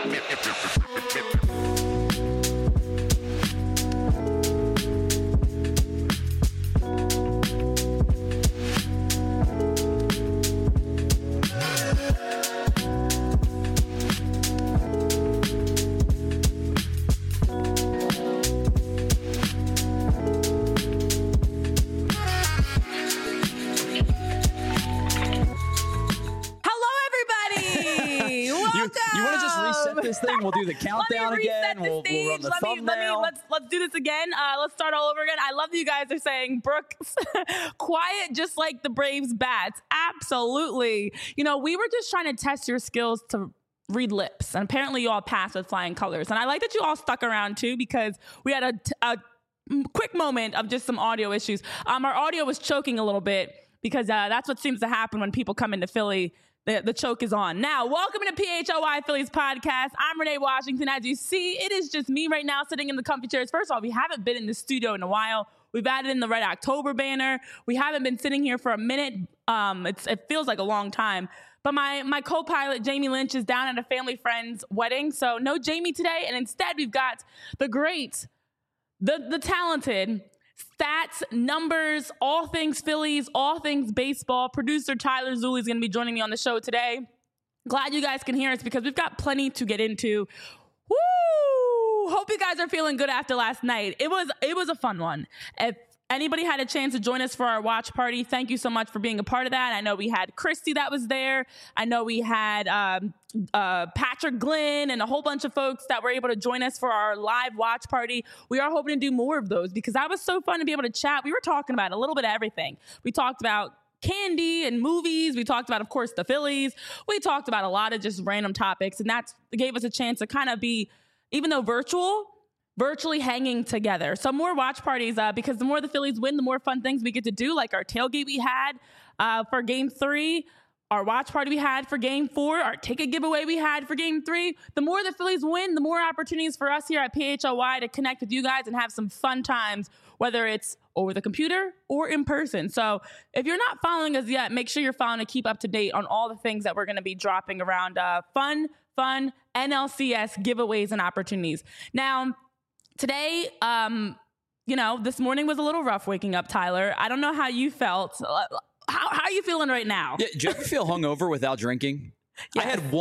You want to just reset this thing? We'll do the countdown again. We'll run the thumbnail. Let's do this again. Let's start all over again. I love that you guys are saying Brooks quiet, just like the Braves bats. Absolutely. You know, we were just trying to test your skills to read lips, and apparently you all passed with flying colors. And I like that you all stuck around too, because we had a quick moment of just some audio issues. Our audio was choking a little bit because that's what seems to happen when people come into Philly. The choke is on. Now, welcome to PHLY Phillies podcast. I'm Renee Washington. As you see, it is just me right now sitting in the comfy chairs. First of all, we haven't been in the studio in a while. We've added in the Red October banner. We haven't been sitting here for a minute. It feels like a long time. But my co-pilot, Jamie Lynch, is down at a family friend's wedding. So no Jamie today. And instead, we've got the great, the talented, stats, numbers, all things Phillies, all things baseball. Producer Tyler Zulli is going to be joining me on the show today. Glad you guys can hear us because we've got plenty to get into. Woo! Hope you guys are feeling good after last night. It was a fun one. If anybody had a chance to join us for our watch party, thank you so much for being a part of that. I know we had Christy that was there. I know we had Patrick Glenn and a whole bunch of folks that were able to join us for our live watch party. We are hoping to do more of those because that was so fun to be able to chat. We were talking about a little bit of everything. We talked about candy and movies. We talked about, of course, the Phillies. We talked about a lot of just random topics, and that gave us a chance to kind of be, even though virtually hanging together. So more watch parties because the more the Phillies win, the more fun things we get to do, like our tailgate we had for Game 3, our watch party we had for Game 4, our ticket giveaway we had for Game 3. The more the Phillies win, the more opportunities for us here at PHLY to connect with you guys and have some fun times, whether it's over the computer or in person. So if you're not following us yet, make sure you're following to keep up to date on all the things that we're going to be dropping around fun NLCS giveaways and opportunities. Now, today, this morning was a little rough waking up, Tyler. I don't know how you felt. How are you feeling right now? Yeah, do you ever feel hungover without drinking? Yes. I had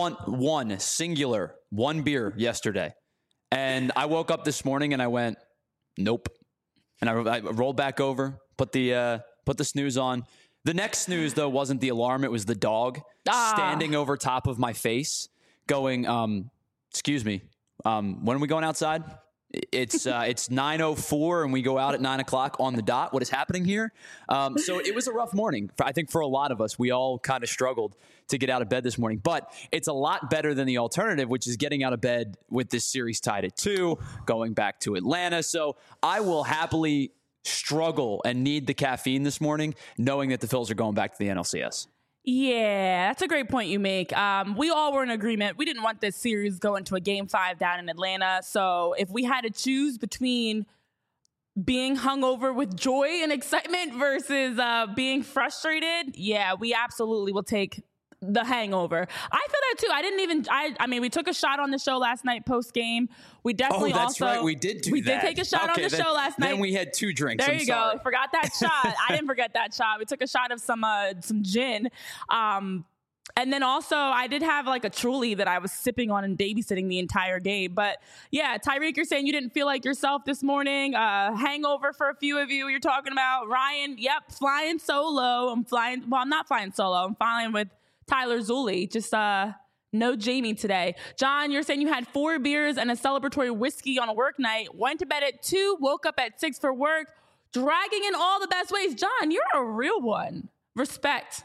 one beer yesterday, and I woke up this morning and I went, nope. And I rolled back over, put the snooze on. The next snooze, though, wasn't the alarm. It was the dog standing over top of my face going, excuse me, when are we going outside? It's 9:04 and we go out at 9:00 on the dot. What is happening here? So it was a rough morning. I think for a lot of us, we all kind of struggled to get out of bed this morning, but it's a lot better than the alternative, which is getting out of bed with this series tied at 2, going back to Atlanta. So I will happily struggle and need the caffeine this morning, knowing that the Phils are going back to the NLCS. Yeah, that's a great point you make. We all were in agreement. We didn't want this series going to a Game 5 down in Atlanta. So if we had to choose between being hungover with joy and excitement versus being frustrated, yeah, we absolutely will take the hangover. I feel that too. I mean, we took a shot on the show last night post game. We definitely that's right. We did do that. We did take a shot on the show last night. Then we had 2 drinks. There you go. Forgot that shot. I didn't forget that shot. We took a shot of some gin. And then also I did have like a Truly that I was sipping on and babysitting the entire game. But yeah, Tyreek, you're saying you didn't feel like yourself this morning. Hangover for a few of you. You're talking about Ryan. Yep. Flying solo. I'm not flying solo. I'm flying with Tyler Zulli. Just no Jamie today. John, you're saying you had 4 beers and a celebratory whiskey on a work night, went to bed at 2, woke up at 6 for work, dragging in all the best ways. John, you're a real one. Respect,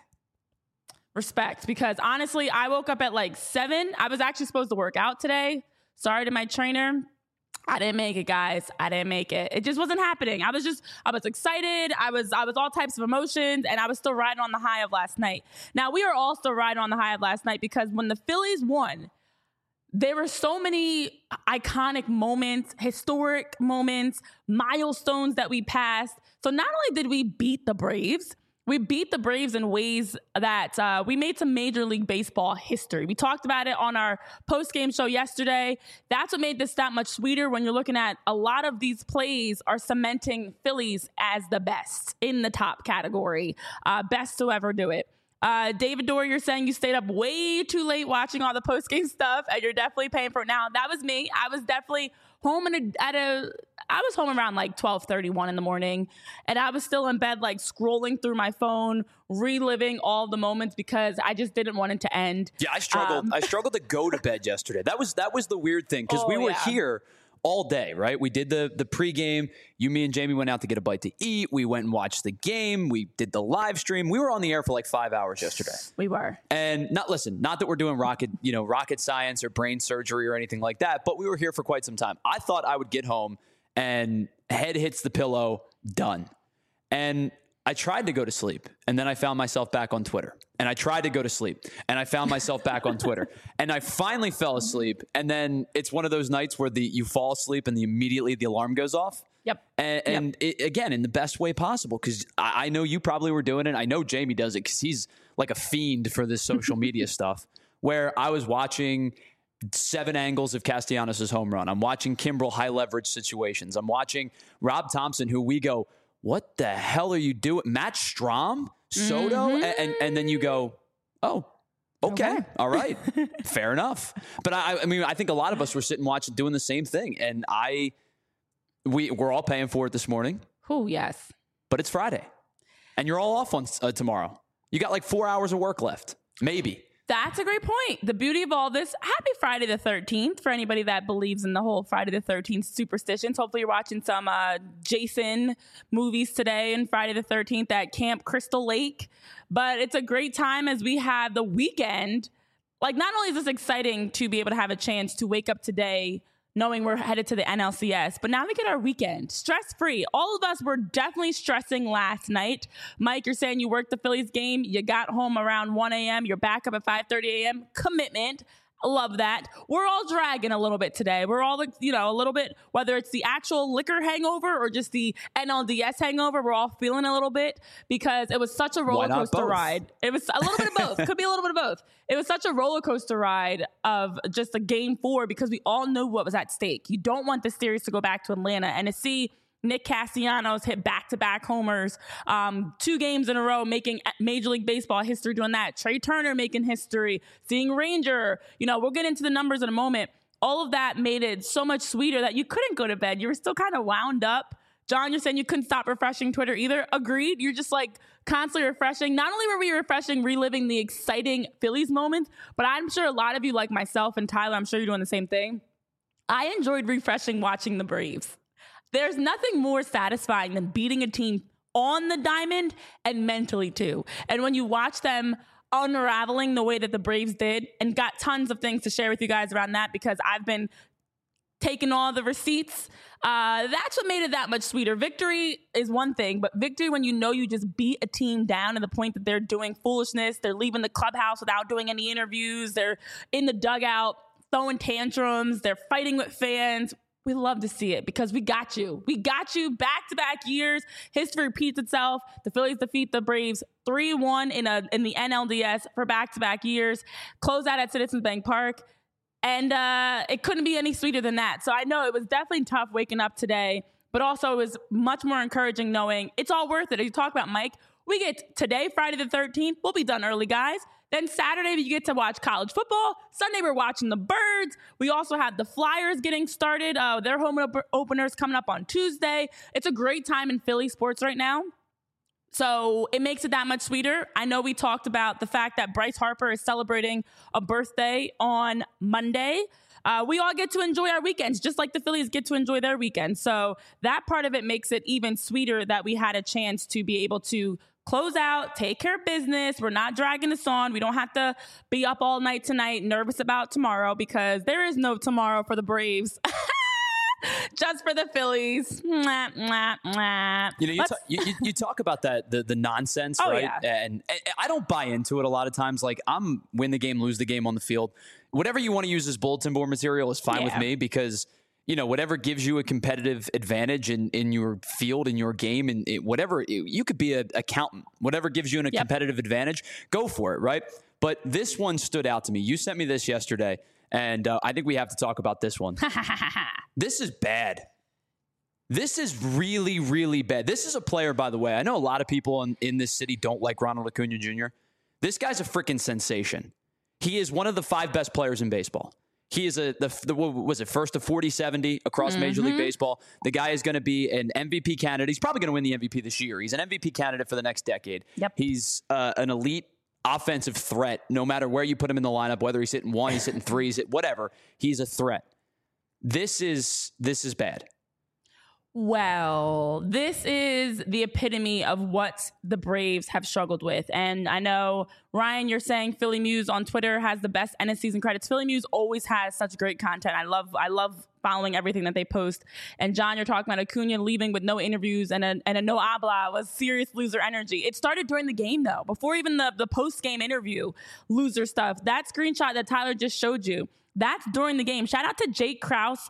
because honestly, I woke up at like 7. I was actually supposed to work out today. Sorry to my trainer. I didn't make it, guys. I didn't make it. It just wasn't happening. I was excited. I was all types of emotions, and I was still riding on the high of last night. Now, we are all still riding on the high of last night because when the Phillies won, there were so many iconic moments, historic moments, milestones that we passed. So not only did we beat the Braves, We beat the Braves in ways that we made some Major League Baseball history. We talked about it on our post-game show yesterday. That's what made this that much sweeter when you're looking at a lot of these plays are cementing Phillies as the best in the top category, best to ever do it. David Dorr, you're saying you stayed up way too late watching all the post-game stuff, and you're definitely paying for it now. That was me. I was definitely home I was home around like 12:31 in the morning, and I was still in bed, like scrolling through my phone, reliving all the moments because I just didn't want it to end. Yeah, I struggled. I struggled to go to bed yesterday. That was the weird thing because we were here all day, right? We did the pregame. Me and Jamie went out to get a bite to eat. We went and watched the game. We did the live stream. We were on the air for like 5 hours yesterday. We were. And not that we're doing rocket science or brain surgery or anything like that, but we were here for quite some time. I thought I would get home and head hits the pillow, done. And I tried to go to sleep, and then I found myself back on Twitter. And I tried to go to sleep, and I found myself back on Twitter. And I finally fell asleep, and then it's one of those nights where you fall asleep and immediately the alarm goes off. Yep. And again, in the best way possible, because I know you probably were doing it. I know Jamie does it because he's like a fiend for this social media stuff, where I was watching 7 angles of Castellanos' home run. I'm watching Kimbrel high leverage situations. I'm watching Rob Thompson, who we go, what the hell are you doing? Matt Strahm, Soto, and then you go, oh, okay. All right, fair enough. But I mean, I think a lot of us were sitting watching, doing the same thing, and we're all paying for it this morning. Oh yes, but it's Friday, and you're all off on tomorrow. You got like 4 hours of work left, maybe. That's a great point. The beauty of all this, happy Friday the 13th for anybody that believes in the whole Friday the 13th superstitions. Hopefully you're watching some Jason movies today and Friday the 13th at Camp Crystal Lake. But it's a great time as we have the weekend. Like, not only is this exciting to be able to have a chance to wake up today knowing we're headed to the NLCS, but now we get our weekend stress-free. All of us were definitely stressing last night. Mike, you're saying you worked the Phillies game. You got home around 1 a.m. You're back up at 5:30 a.m. Commitment. Love that. We're all dragging a little bit today. We're all, a little bit, whether it's the actual liquor hangover or just the NLDS hangover, we're all feeling a little bit because it was such a roller coaster ride. It was a little bit of both. Could be a little bit of both. It was such a roller coaster ride of just a game 4 because we all knew what was at stake. You don't want the series to go back to Atlanta, and to see Nick Castellanos hit back-to-back homers, 2 games in a row, making Major League Baseball history doing that. Trey Turner making history, seeing Ranger. We'll get into the numbers in a moment. All of that made it so much sweeter that you couldn't go to bed. You were still kind of wound up. John, you're saying you couldn't stop refreshing Twitter either. Agreed. You're just like constantly refreshing. Not only were we refreshing, reliving the exciting Phillies moments, but I'm sure a lot of you, like myself and Tyler, I'm sure you're doing the same thing. I enjoyed refreshing watching the Braves. There's nothing more satisfying than beating a team on the diamond and mentally too. And when you watch them unraveling the way that the Braves did, and got tons of things to share with you guys around that because I've been taking all the receipts, that's what made it that much sweeter. Victory is one thing, but victory when you just beat a team down to the point that they're doing foolishness, they're leaving the clubhouse without doing any interviews, they're in the dugout throwing tantrums, they're fighting with fans. We love to see it because we got you. We got you back-to-back years. History repeats itself. The Phillies defeat the Braves 3-1 in the NLDS for back-to-back years. Close out at Citizens Bank Park. And it couldn't be any sweeter than that. So I know it was definitely tough waking up today, but also it was much more encouraging knowing it's all worth it. As you talk about, Mike, we get today, Friday the 13th. We'll be done early, guys. Then Saturday, you get to watch college football. Sunday, we're watching the Birds. We also have the Flyers getting started. Their home openers coming up on Tuesday. It's a great time in Philly sports right now. So it makes it that much sweeter. I know we talked about the fact that Bryce Harper is celebrating a birthday on Monday. We all get to enjoy our weekends, just like the Phillies get to enjoy their weekends. So that part of it makes it even sweeter that we had a chance to be able to close out, take care of business. We're not dragging this on. We don't have to be up all night tonight, nervous about tomorrow, because there is no tomorrow for the Braves. Just for the Phillies. Mwah, mwah, mwah. You talk about that, the nonsense, right? Yeah. And I don't buy into it a lot of times. Like, I'm win the game, lose the game on the field. Whatever you want to use as bulletin board material is fine with me, because whatever gives you a competitive advantage in your field, in your game, and whatever, you could be an accountant, whatever gives you a competitive advantage, go for it, right? But this one stood out to me. You sent me this yesterday, and I think we have to talk about this one. This is bad. This is really, really bad. This is a player, by the way. I know a lot of people in this city don't like Ronald Acuna Jr. This guy's a freaking sensation. He is one of the 5 best players in baseball. He is what was it, first to 40-70 across Major League Baseball. The guy is going to be an MVP candidate. He's probably going to win the MVP this year. He's an MVP candidate for the next decade. Yep. He's an elite offensive threat, no matter where you put him in the lineup, whether he's hitting 1, he's hitting 3, whatever. He's a threat. This is bad. Well, this is the epitome of what the Braves have struggled with. And I know, Ryan, you're saying Philly Muse on Twitter has the best end of season credits. Philly Muse always has such great content. I love following everything that they post. And John, you're talking about Acuna leaving with no interviews and a no habla was serious loser energy. It started during the game, though, before even the post-game interview, loser stuff. That screenshot that Tyler just showed you, that's during the game. Shout out to Jake Krause,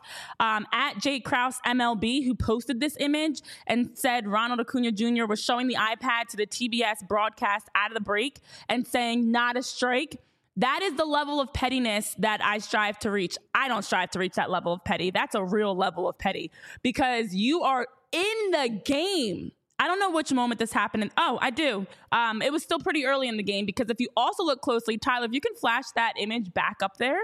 at Jake Krause MLB, who posted this image and said Ronald Acuna Jr. was showing the iPad to the TBS broadcast out of the break and saying, not a strike. That is the level of pettiness that I strive to reach. I don't strive to reach that level of petty. That's a real level of petty because you are in the game. I don't know which moment this happened. Oh, I do. It was still pretty early in the game because if you also look closely, Tyler, if you can flash that image back up there,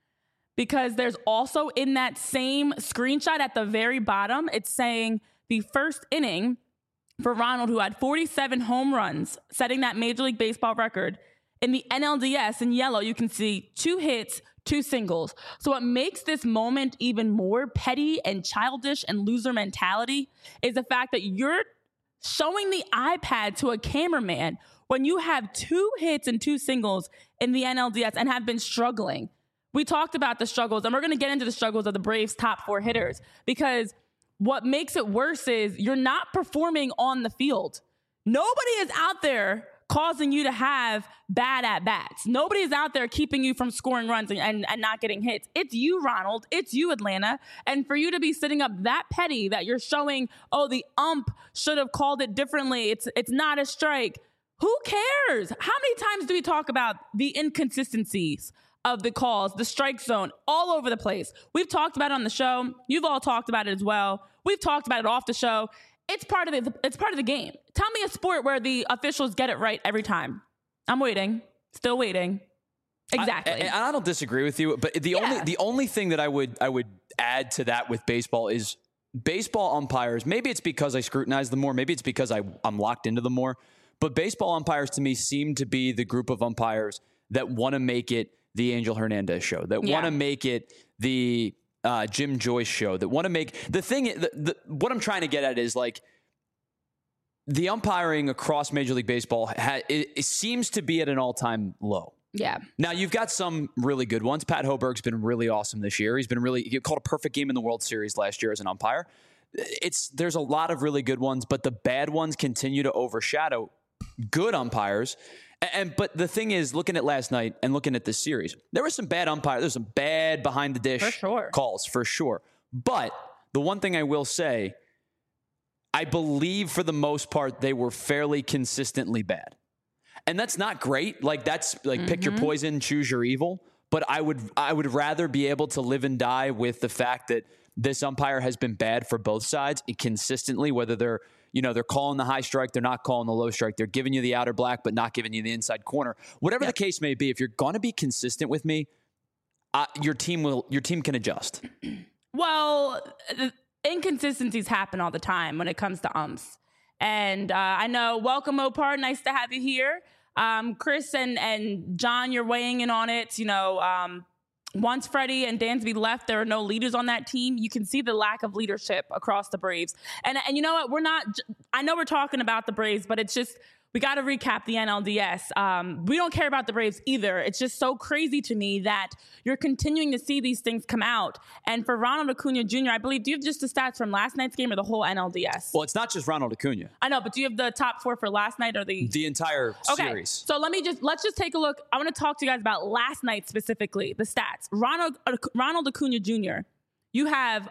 because there's also in that same screenshot at the very bottom, it's saying the first inning for Ronald, who had 47 home runs, setting that Major League Baseball record. In the NLDS in yellow, you can see 2 hits, 2 singles. So what makes this moment even more petty and childish and loser mentality is the fact that you're showing the iPad to a cameraman when you have 2 hits and 2 singles in the NLDS and have been struggling. We talked about the struggles, and we're going to get into the struggles of the Braves' top 4 hitters because what makes it worse is you're not performing on the field. Nobody is out there causing you to have bad at-bats. Nobody is out there keeping you from scoring runs and not getting hits. It's you, Ronald. It's you, Atlanta. And for you to be sitting up that petty that you're showing, oh, the ump should have called it differently. It's not a strike. Who cares? How many times do we talk about the inconsistencies of the calls, the strike zone, all over the place? We've talked about it on the show. You've all talked about it as well. We've talked about it off the show. It's part of the game. Tell me a sport where the officials get it right every time. I'm waiting. Still waiting. Exactly. I don't disagree with you, but the only thing that I would add to that with baseball is baseball umpires. Maybe it's because I scrutinize them more. Maybe it's because I'm locked into them more. But baseball umpires to me seem to be the group of umpires that want to make it the Angel Hernandez show, that want to make it the Jim Joyce show, that want to make the thing. What I'm trying to get at is like the umpiring across Major League Baseball. It seems to be at an all-time low. Yeah. Now you've got some really good ones. Pat Hoberg's been really awesome this year. He called a perfect game in the World Series last year as an umpire. There's a lot of really good ones, but the bad ones continue to overshadow good umpires. But the thing is, looking at last night and looking at this series, there was some bad umpires. There's some bad behind the dish calls for sure. But the one thing I will say, I believe for the most part, they were fairly consistently bad. And that's not great. Like that's like pick your poison, choose your evil. But I would rather be able to live and die with the fact that this umpire has been bad for both sides consistently, whether they're calling the high strike, they're not calling the low strike. They're giving you the outer black, but not giving you the inside corner. Whatever the case may be, if you're going to be consistent with me, your team can adjust. Well, inconsistencies happen all the time when it comes to umps. And I know, welcome, Mopar. Nice to have you here. Chris and John, you're weighing in on it. Once Freddie and Dansby left, there are no leaders on that team. You can see the lack of leadership across the Braves. And you know what? I know we're talking about the Braves, but it's just, we got to recap the NLDS. We don't care about the Braves either. It's just so crazy to me that you're continuing to see these things come out. And for Ronald Acuna Jr., I believe, do you have just the stats from last night's game or the whole NLDS? Well, it's not just Ronald Acuna. I know, but do you have the top 4 for last night or the entire series? So let's just take a look. I want to talk to you guys about last night specifically, the stats. Ronald Acuna Jr., you have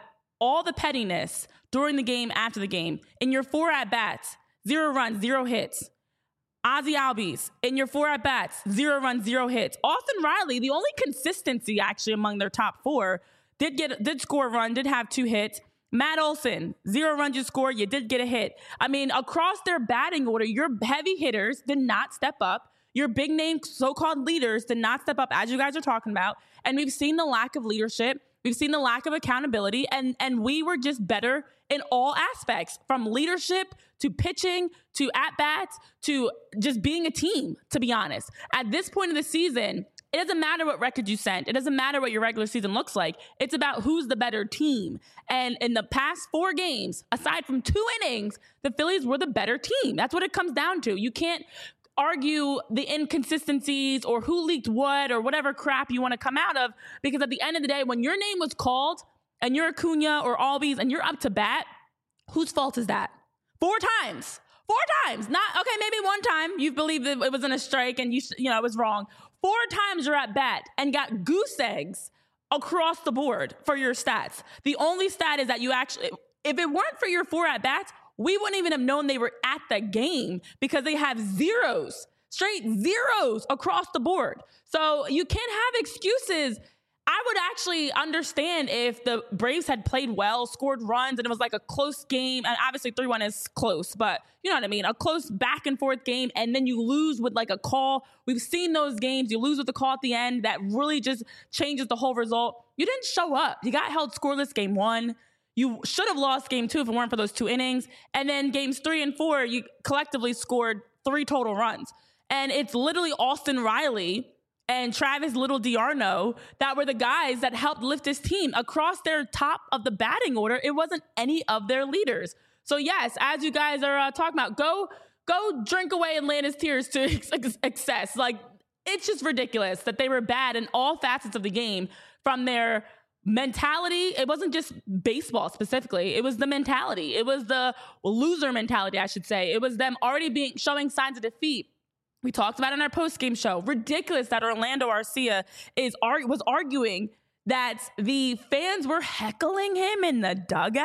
all the pettiness during the game, after the game, in your 4 at-bats, 0 runs, 0 hits. Ozzie Albies, in your 4 at-bats, 0 runs, 0 hits. Austin Riley, the only consistency actually among their top 4, did score a run, did have 2 hits. Matt Olson, 0 runs you scored, you did get a hit. I mean, across their batting order, your heavy hitters did not step up. Your big name so-called leaders did not step up, as you guys are talking about. And we've seen the lack of leadership. We've seen the lack of accountability. And we were just better in all aspects, from leadership to pitching to at-bats to just being a team, to be honest. At this point of the season, it doesn't matter what record you sent. It doesn't matter what your regular season looks like. It's about who's the better team. And in the past 4 games, aside from 2 innings, the Phillies were the better team. That's what it comes down to. You can't argue the inconsistencies or who leaked what or whatever crap you want to come out of, because at the end of the day, when your name was called and you're Acuna or Albies and you're up to bat, whose fault is that? 4 times. 4 times. Not, okay, maybe 1 time you believe that it was in a strike and you know it was wrong. 4 times you're at bat and got goose eggs across the board for your stats. The only stat is that you actually, if it weren't for your 4 at bats, we wouldn't even have known they were at the game, because they have zeros, straight zeros across the board. So you can't have excuses. I would actually understand if the Braves had played well, scored runs, and it was like a close game. And obviously 3-1 is close, but you know what I mean? A close back and forth game, and then you lose with like a call. We've seen those games. You lose with a call at the end that really just changes the whole result. You didn't show up. You got held scoreless game 1. You should have lost game 2 if it weren't for those 2 innings. And then games 3 and 4, you collectively scored 3 total runs. And it's literally Austin Riley and Travis Little D'Arnaud that were the guys that helped lift this team across their top of the batting order. It wasn't any of their leaders. So yes, as you guys are talking about, go drink away Atlanta's tears to excess. Like, it's just ridiculous that they were bad in all facets of the game, from their mentality. It wasn't just baseball specifically. It was the mentality. It was the loser mentality, I should say. It was them already showing signs of defeat. We talked about it in our post-game show. Ridiculous that Orlando Arcia was arguing that the fans were heckling him in the dugout.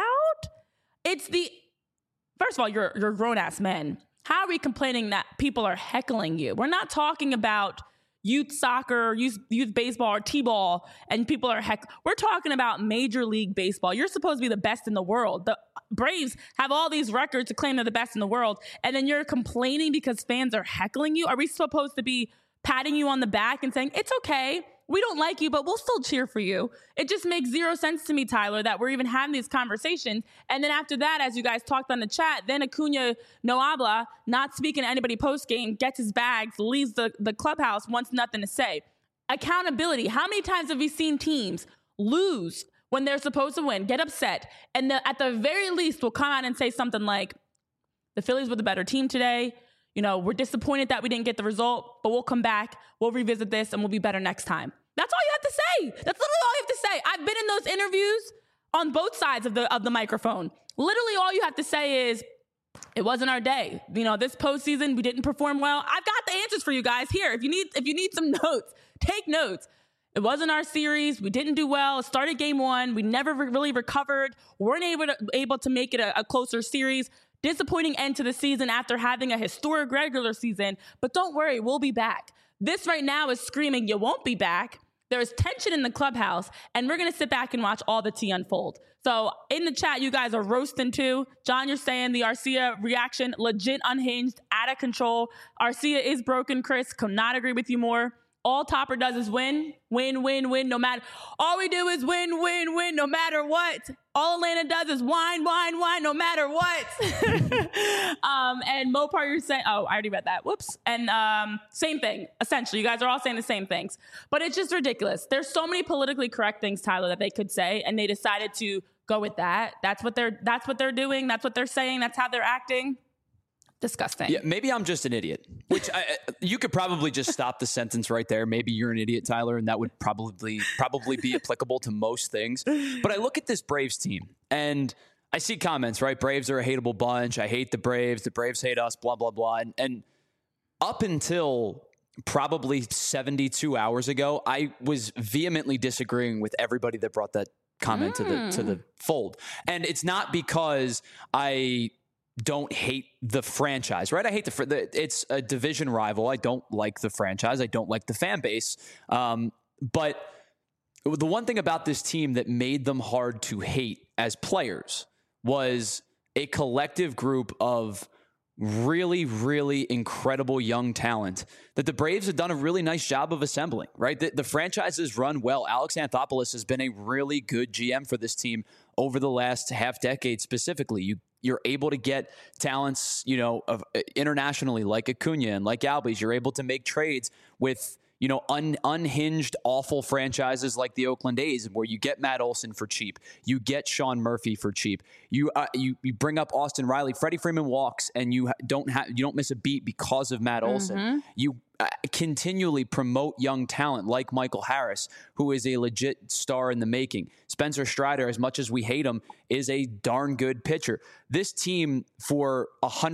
First of all, you're grown-ass men. How are we complaining that people are heckling you? We're not talking about youth soccer, youth baseball, or T-ball, and people are we're talking about Major League Baseball. You're supposed to be the best in the world. The Braves have all these records to claim they're the best in the world, and then you're complaining because fans are heckling you? Are we supposed to be patting you on the back and saying, it's okay, we don't like you, but we'll still cheer for you? It just makes zero sense to me, Tyler, that we're even having these conversations. And then after that, as you guys talked on the chat, then Acuna no habla, not speaking to anybody post-game, gets his bags, leaves the clubhouse, wants nothing to say. Accountability. How many times have we seen teams lose when they're supposed to win, get upset, and at the very least will come out and say something like, the Phillies were the better team today. You know, we're disappointed that we didn't get the result, but we'll come back, we'll revisit this, and we'll be better next time. That's all you have to say. That's literally all you have to say. I've been in those interviews on both sides of the microphone. Literally all you have to say is, it wasn't our day. You know, this postseason, we didn't perform well. I've got the answers for you guys here. If you need some notes, take notes. It wasn't our series. We didn't do well. It started game 1. We never really recovered. Weren't able to make it a closer series. Disappointing end to the season after having a historic regular season. But don't worry, we'll be back. This right now is screaming, you won't be back. There's tension in the clubhouse, and we're going to sit back and watch all the tea unfold. So in the chat, you guys are roasting too. John, you're saying the Arcia reaction, legit unhinged, out of control. Arcia is broken, Chris. Could not agree with you more. All Topper does is win, win, win, win, no matter. All we do is win, win, win, no matter what. All Atlanta does is whine, whine, whine, no matter what. And Mopar, you're saying, oh, I already read that. Whoops. And same thing, essentially. You guys are all saying the same things. But it's just ridiculous. There's so many politically correct things, Tyler, that they could say, and they decided to go with that. That's what they're doing. That's what they're saying. That's how they're acting. Disgusting. Yeah, maybe I'm just an idiot, which you could probably just stop the sentence right there. Maybe you're an idiot, Tyler, and that would probably be applicable to most things. But I look at this Braves team and I see comments, right? Braves are a hateable bunch. I hate the Braves. The Braves hate us, blah, blah, blah. And up until probably 72 hours ago, I was vehemently disagreeing with everybody that brought that comment to the fold. And it's not because I don't hate the franchise, right? I hate it's a division rival. I don't like the franchise. I don't like the fan base. But the one thing about this team that made them hard to hate as players was a collective group of really, really incredible young talent that the Braves have done a really nice job of assembling, right? The franchise has run well. Alex Anthopoulos has been a really good GM for this team over the last half decade specifically. You're able to get talents, internationally like Acuna and like Albies. You're able to make trades with, unhinged, awful franchises like the Oakland A's, where you get Matt Olson for cheap, you get Sean Murphy for cheap, you bring up Austin Riley, Freddie Freeman walks, and you don't miss a beat because of Matt Olson. You continually promote young talent like Michael Harris, who is a legit star in the making. Spencer Strider, as much as we hate him, is a darn good pitcher. This team, for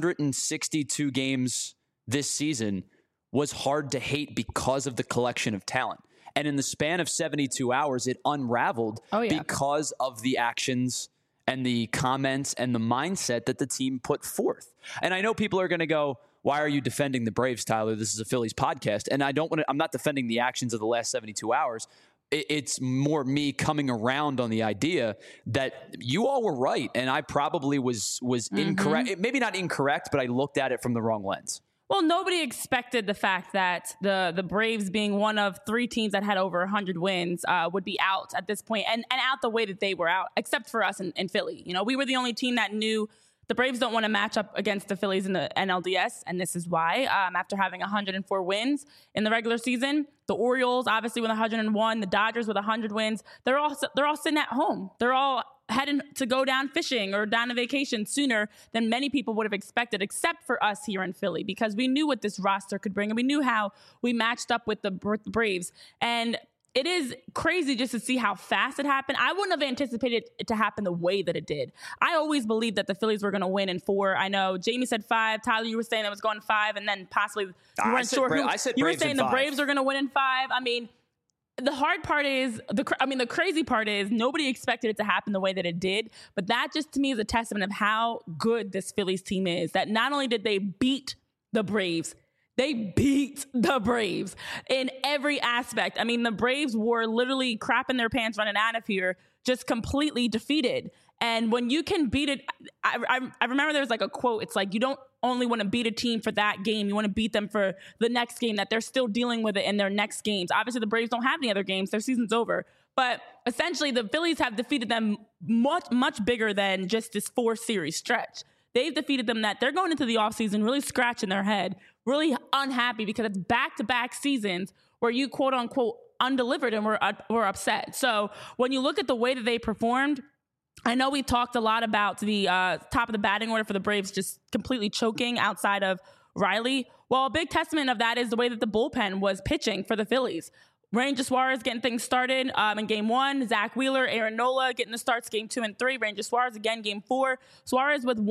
162 games this season, was hard to hate because of the collection of talent. And in the span of 72 hours, it unraveled because of the actions and the comments and the mindset that the team put forth. And I know people are going to go, why are you defending the Braves, Tyler? This is a Phillies podcast. And I'm not defending the actions of the last 72 hours. It's more me coming around on the idea that you all were right. And I probably was incorrect. Maybe not incorrect, but I looked at it from the wrong lens. Well, nobody expected the fact that the Braves, being one of 3 teams that had over 100 wins, would be out at this point, and out the way that they were out, except for us in Philly. We were the only team that knew the Braves don't want to match up against the Phillies in the NLDS, and this is why. After having 104 wins in the regular season, the Orioles, obviously with 101, the Dodgers with 100 wins, they're all sitting at home. They're all heading to go down fishing or down on vacation sooner than many people would have expected, except for us here in Philly, because we knew what this roster could bring, and we knew how we matched up with the Braves. And it is crazy just to see how fast it happened. I wouldn't have anticipated it to happen the way that it did. I always believed that the Phillies were going to win in 4. I know Jamie said 5. Tyler, you were saying it was going 5, and then possibly you weren't sure. You were saying the Braves are going to win in 5. I mean, the hard part is, the crazy part is nobody expected it to happen the way that it did. But that just to me is a testament of how good this Phillies team is. That not only did they beat the Braves, they beat the Braves in every aspect. I mean, the Braves were literally crapping their pants running out of here, just completely defeated. And when you can beat it, I remember there was like a quote. It's like, you don't only want to beat a team for that game. You want to beat them for the next game, that they're still dealing with it in their next games. Obviously, the Braves don't have any other games. Their season's over. But essentially, the Phillies have defeated them much, much bigger than just this 4-series stretch. They've defeated them that they're going into the offseason really scratching their head, really unhappy, because it's back-to-back seasons where you, quote-unquote, undelivered and were upset. So when you look at the way that they performed, I know we talked a lot about the top of the batting order for the Braves just completely choking outside of Riley. Well, a big testament of that is the way that the bullpen was pitching for the Phillies. Ranger Suarez getting things started in Game 1. Zach Wheeler, Aaron Nola getting the starts Game 2 and 3. Ranger Suarez again Game 4. Suarez with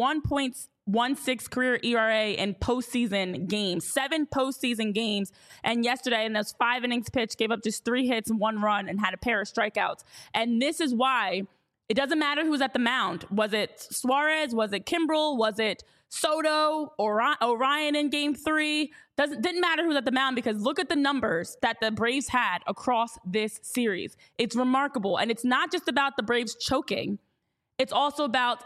1.16 career ERA in postseason games. 7 postseason games. And yesterday in those 5 innings pitched, gave up just 3 hits and 1 run and had a pair of strikeouts. And this is why it doesn't matter who's at the mound. Was it Suarez? Was it Kimbrel? Was it Soto or Orion in Game 3? Didn't matter who's at the mound, because look at the numbers that the Braves had across this series. It's remarkable. And it's not just about the Braves choking. It's also about,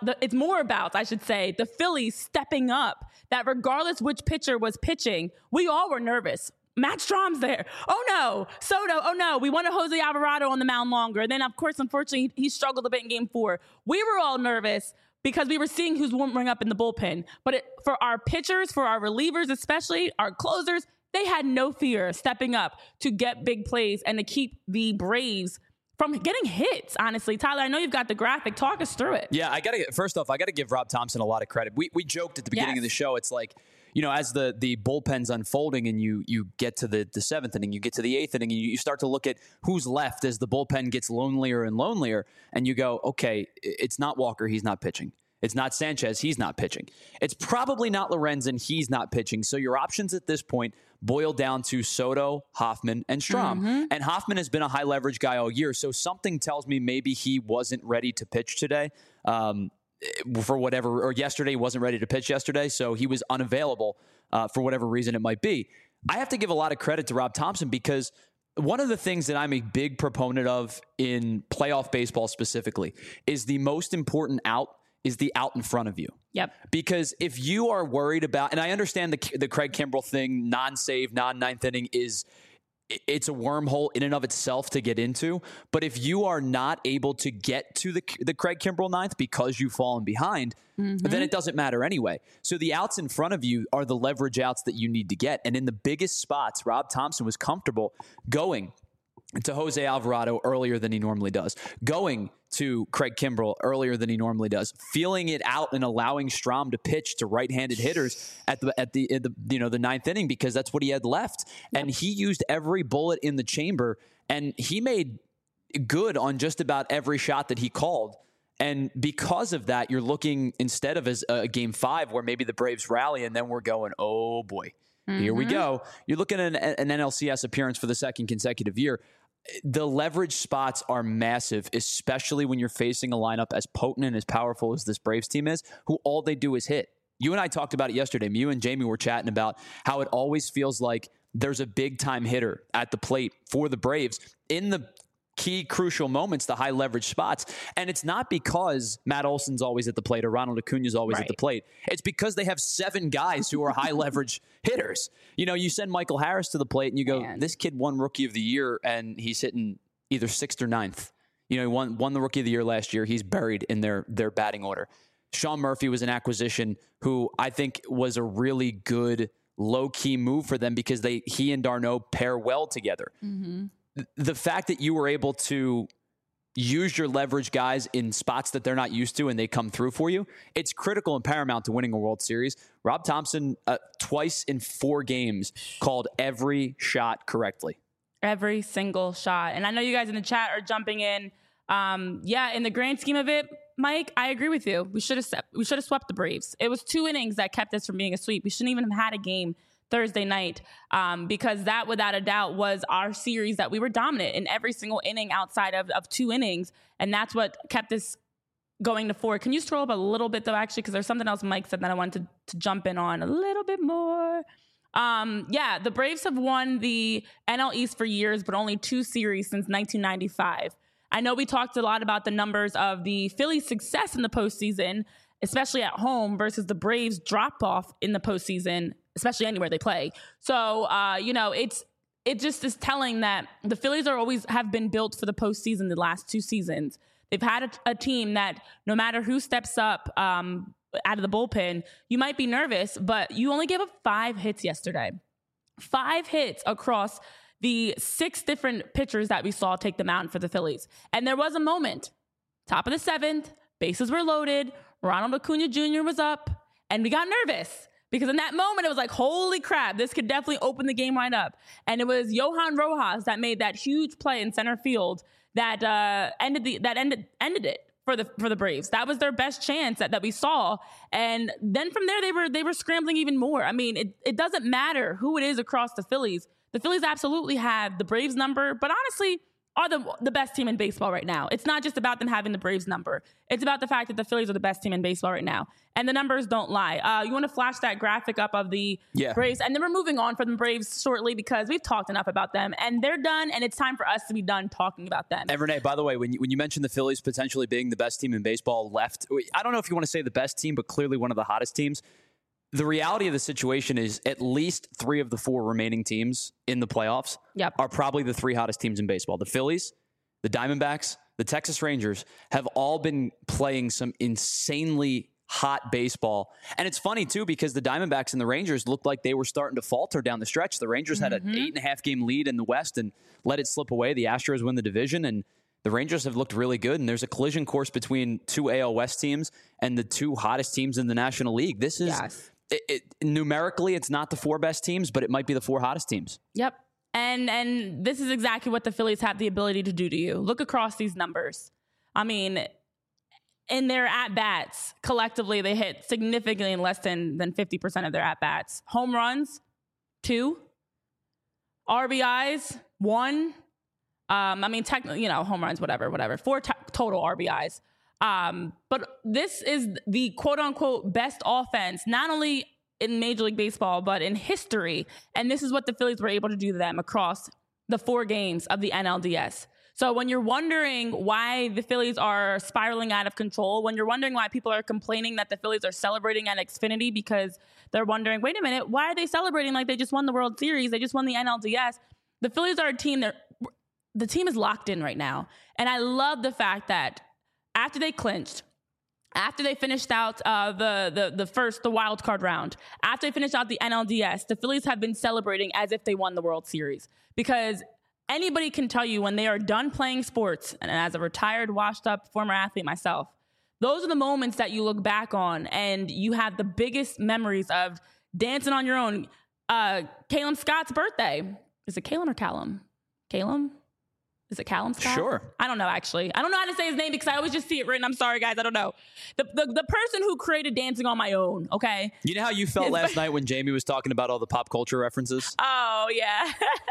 the Phillies stepping up, that regardless which pitcher was pitching, we all were nervous. Matt Strom's there. Oh no. Soto. Oh no. We wanted Jose Alvarado on the mound longer. And then, of course, unfortunately, he struggled a bit in Game 4. We were all nervous because we were seeing who's warming up in the bullpen. But for our pitchers, for our relievers, especially our closers, they had no fear stepping up to get big plays and to keep the Braves from getting hits, honestly. Tyler, I know you've got the graphic. Talk us through it. Yeah, first off, I got to give Rob Thompson a lot of credit. We joked at the beginning of the show. It's like, as the bullpen's unfolding and you get to the 7th inning, you get to the 8th inning, and you start to look at who's left as the bullpen gets lonelier and lonelier, and you go, okay, it's not Walker. He's not pitching. It's not Sanchez. He's not pitching. It's probably not Lorenzen. He's not pitching. So your options at this point boil down to Soto, Hoffman, and Strahm. And Hoffman has been a high leverage guy all year. So something tells me maybe he wasn't ready to pitch today for whatever, or yesterday he wasn't ready to pitch yesterday. So he was unavailable for whatever reason it might be. I have to give a lot of credit to Rob Thomson because one of the things that I'm a big proponent of in playoff baseball specifically is the most important out is the out in front of you. Yep. Because if you are worried about, and I understand the Craig Kimbrell thing, non-save, non-ninth inning it's a wormhole in and of itself to get into. But if you are not able to get to the Craig Kimbrell ninth because you've fallen behind, then it doesn't matter anyway. So the outs in front of you are the leverage outs that you need to get. And in the biggest spots, Rob Thomson was comfortable going to Jose Alvarado earlier than he normally does, going to Craig Kimbrell earlier than he normally does, feeling it out and allowing Strahm to pitch to right-handed hitters at the ninth inning because that's what he had left. Yep. And he used every bullet in the chamber, and he made good on just about every shot that he called. And because of that, you're looking, instead of as a game 5 where maybe the Braves rally and then we're going, oh boy, here we go. You're looking at an NLCS appearance for the second consecutive year. The leverage spots are massive, especially when you're facing a lineup as potent and as powerful as this Braves team is, who all they do is hit. You and I talked about it yesterday. You and Jamie were chatting about how it always feels like there's a big-time hitter at the plate for the Braves in the key crucial moments, the high leverage spots. And it's not because Matt Olson's always at the plate or Ronald Acuna's always at the plate. It's because they have 7 guys who are high leverage hitters. You know, you send Michael Harris to the plate and you go, this kid won Rookie of the Year and he's hitting either 6th or 9th. You know, he won the Rookie of the Year last year. He's buried in their batting order. Sean Murphy was an acquisition who I think was a really good low-key move for them because he and d'Arnaud pair well together. The fact that you were able to use your leverage guys in spots that they're not used to and they come through for you, it's critical and paramount to winning a World Series. Rob Thomson, twice in 4 games, called every shot correctly. Every single shot. And I know you guys in the chat are jumping in. In the grand scheme of it, Mike, I agree with you. We should have swept the Braves. It was 2 innings that kept us from being a sweep. We shouldn't even have had a game Thursday night because that, without a doubt, was our series that we were dominant in every single inning outside of 2 innings. And that's what kept us going to 4. Can you scroll up a little bit, though, actually, because there's something else Mike said that I wanted to jump in on a little bit more. The Braves have won the NL East for years, but only 2 series since 1995. I know we talked a lot about the numbers of the Phillies' success in the postseason, especially at home, versus the Braves' drop-off in the postseason, especially anywhere they play. So, it just is telling that the Phillies have been built for the postseason the last 2 seasons. They've had a team that no matter who steps up out of the bullpen, you might be nervous, but you only gave up 5 hits yesterday. 5 hits across the 6 different pitchers that we saw take the mound for the Phillies. And there was a moment, top of the 7th, bases were loaded, Ronald Acuna Jr. was up, and we got nervous. Because in that moment, it was like, holy crap, this could definitely open the game right up. And it was Johan Rojas that made that huge play in center field that ended it for the Braves. That was their best chance that we saw. And then from there, they were scrambling even more. I mean, it doesn't matter who it is across the Phillies. The Phillies absolutely have the Braves number, but honestly are the best team in baseball right now. It's not just about them having the Braves number. It's about the fact that the Phillies are the best team in baseball right now. And the numbers don't lie. You want to flash that graphic up of the Braves? And then we're moving on from the Braves shortly because we've talked enough about them. And they're done, and it's time for us to be done talking about them. And Renee, by the way, when you mentioned the Phillies potentially being the best team in baseball left, I don't know if you want to say the best team, but clearly one of the hottest teams. The reality of the situation is at least 3 of the 4 remaining teams in the playoffs are probably the 3 hottest teams in baseball. The Phillies, the Diamondbacks, the Texas Rangers have all been playing some insanely hot baseball. And it's funny, too, because the Diamondbacks and the Rangers looked like they were starting to falter down the stretch. The Rangers had an 8.5-game lead in the West and let it slip away. The Astros win the division, and the Rangers have looked really good. And there's a collision course between 2 AL West teams and the 2 hottest teams in the National League. This is... Yes. Numerically, it's not the 4 best teams, but it might be the 4 hottest teams. Yep. And this is exactly what the Phillies have the ability to do to you. Look across these numbers. I mean, in their at-bats, collectively, they hit significantly less than 50% of their at-bats. Home runs, 2. RBIs, 1. Technically, home runs, whatever. 4 total RBIs. But this is the quote-unquote best offense, not only in Major League Baseball, but in history. And this is what the Phillies were able to do to them across the 4 games of the NLDS. So when you're wondering why the Phillies are spiraling out of control, when you're wondering why people are complaining that the Phillies are celebrating at Xfinity because they're wondering, wait a minute, why are they celebrating like they just won the World Series? They just won the NLDS. The Phillies are a team the team is locked in right now. And I love the fact that after they clinched, after they finished out the wild card round, after they finished out the NLDS, the Phillies have been celebrating as if they won the World Series. Because anybody can tell you when they are done playing sports, and as a retired, washed up former athlete myself, those are the moments that you look back on and you have the biggest memories of dancing on your own. Calum Scott's birthday. Is it Calum or Callum? Calum? Is it Callum Scott? Sure. I don't know, actually. I don't know how to say his name because I always just see it written. I'm sorry, guys. I don't know. The person who created Dancing on My Own, okay? You know how you felt last night when Jamie was talking about all the pop culture references? Oh, yeah.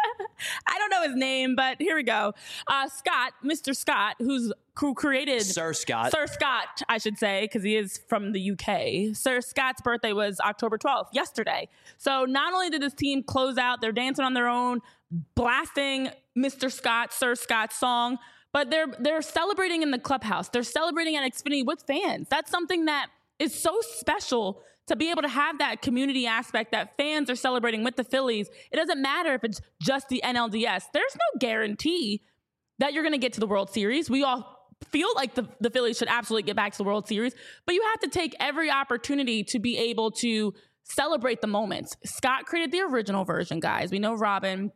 I don't know his name, but here we go. Scott, Mr. Scott, who created... Sir Scott, I should say, because he is from the UK. Sir Scott's birthday was October 12th, yesterday. So not only did this team close out, they're dancing on their own, blasting Mr. Scott, Sir Scott's song, but they're celebrating in the clubhouse. They're celebrating at Xfinity with fans. That's something that is so special to be able to have that community aspect that fans are celebrating with the Phillies. It doesn't matter if it's just the NLDS. There's no guarantee that you're going to get to the World Series. We all feel like the Phillies should absolutely get back to the World Series, but you have to take every opportunity to be able to celebrate the moments. Scott created the original version, guys. We know Robin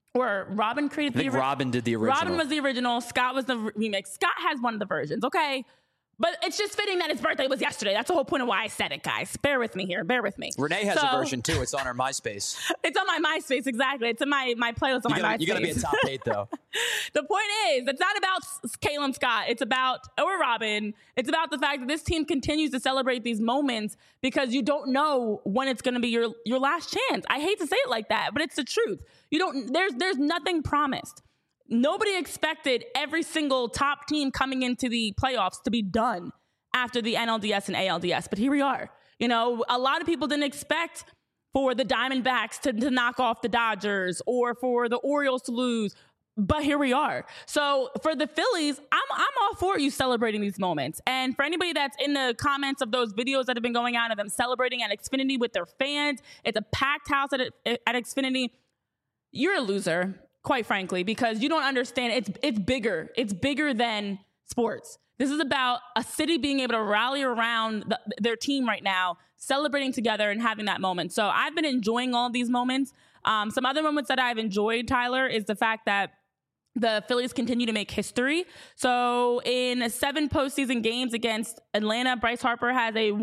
created the original. Robin did the original. Robin was the original. Scott was the remix. Scott has one of the versions, okay? But it's just fitting that his birthday was yesterday. That's the whole point of why I said it, guys. Bear with me here. Bear with me. Renee has a version, too. It's on her MySpace. It's on my MySpace, exactly. It's in my playlist on my MySpace. You got to be a top 8, though. The point is, it's not about Calum Scott. It's about, or Robin. It's about the fact that this team continues to celebrate these moments because you don't know when it's going to be your last chance. I hate to say it like that, but it's the truth. There's nothing promised. Nobody expected every single top team coming into the playoffs to be done after the NLDS and ALDS, but here we are. A lot of people didn't expect for the Diamondbacks to knock off the Dodgers or for the Orioles to lose, but here we are. So for the Phillies, I'm all for you celebrating these moments. And for anybody that's in the comments of those videos that have been going out of them celebrating at Xfinity with their fans, it's a packed house at Xfinity, you're a loser. Quite frankly, because you don't understand, it's bigger. It's bigger than sports. This is about a city being able to rally around their team right now, celebrating together and having that moment. So I've been enjoying all of these moments. Some other moments that I've enjoyed, Tyler, is the fact that the Phillies continue to make history. So in 7 postseason games against Atlanta, Bryce Harper has a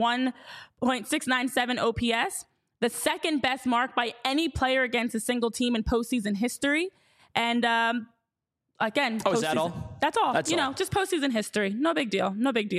1.697 OPS, the second best mark by any player against a single team in postseason history. And again, is that all? That's all. Just postseason history. No big deal.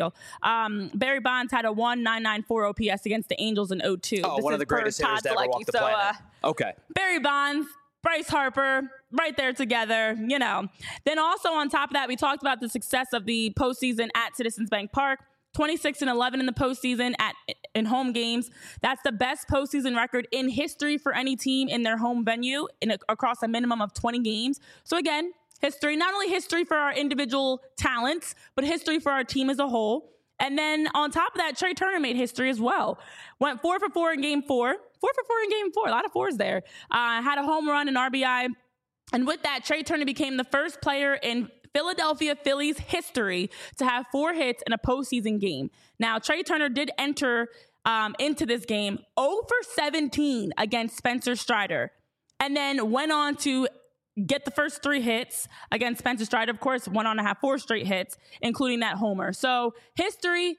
Barry Bonds had a 1.994 OPS against the Angels in 2002. Oh, one of the greatest hitters to ever walk the planet. Okay. Barry Bonds, Bryce Harper, right there together. Then also on top of that, we talked about the success of the postseason at Citizens Bank Park. 26-11 in the postseason in home games. That's the best postseason record in history for any team in their home venue across a minimum of 20 games. So again, history, not only history for our individual talents, but history for our team as a whole. And then on top of that, Trey Turner made history as well. Went 4 for 4 in game 4. 4 for 4 in game 4. A lot of fours there. Had a home run, an RBI. And with that, Trey Turner became the first player in Philadelphia Phillies history to have 4 hits in a postseason game. Now, Trey Turner did enter into this game 0 for 17 against Spencer Strider, and then went on to get the first 3 hits against Spencer Strider. Of course, went on to have 4 straight hits, including that homer. So history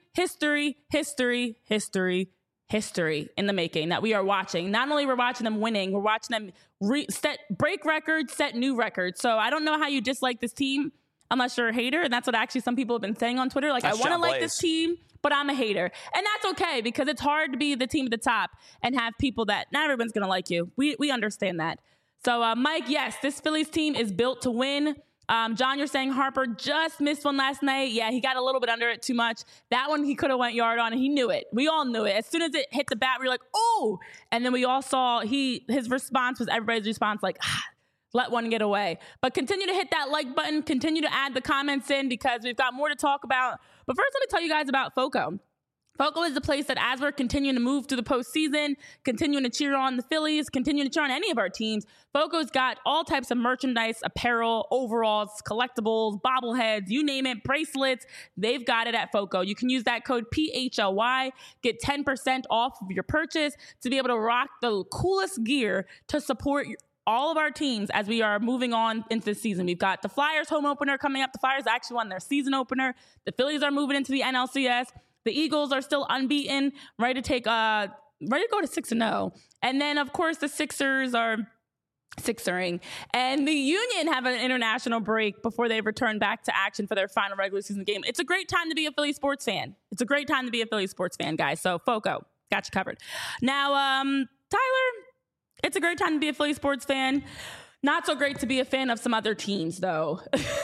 in the making that we are watching. Not only we're watching them winning, we're watching them break records, set new records. So I don't know how you dislike this team. unless you're a hater. And that's what actually some people have been saying on Twitter. Like, That's I want to John like Blaze. this team, but I'm a hater. And that's okay, because it's hard to be the team at the top and have people that not everyone's going to like you. We understand that. So, Mike, yes, this Phillies team is built to win. John, you're saying Harper just missed one last night. Yeah, he got a little bit under it too much. That one he could have went yard on, and he knew it. We all knew it. As soon as it hit the bat, we were like, oh! And then we all saw his response was everybody's response, like, let one get away. But continue to hit that like button. Continue to add the comments in, because we've got more to talk about. But first, let me tell you guys about FOCO. FOCO is the place that, as we're continuing to move through the postseason, continuing to cheer on the Phillies, continuing to cheer on any of our teams, FOCO's got all types of merchandise, apparel, overalls, collectibles, bobbleheads, you name it, bracelets. They've got it at FOCO. You can use that code PHLY, get 10% off of your purchase to be able to rock the coolest gear to support all of our teams as we are moving on into the season. We've got the Flyers home opener coming up. The Flyers actually won their season opener. The Phillies are moving into the NLCS. The Eagles are still unbeaten, ready to go to 6-0. And then, of course, the Sixers are sixering. And the Union have an international break before they return back to action for their final regular season game. It's a great time to be a Philly sports fan. It's a great time to be a Philly sports fan, guys. So, FOCO, got you covered. Now, Tyler, it's a great time to be a Philly sports fan. Not so great to be a fan of some other teams, though.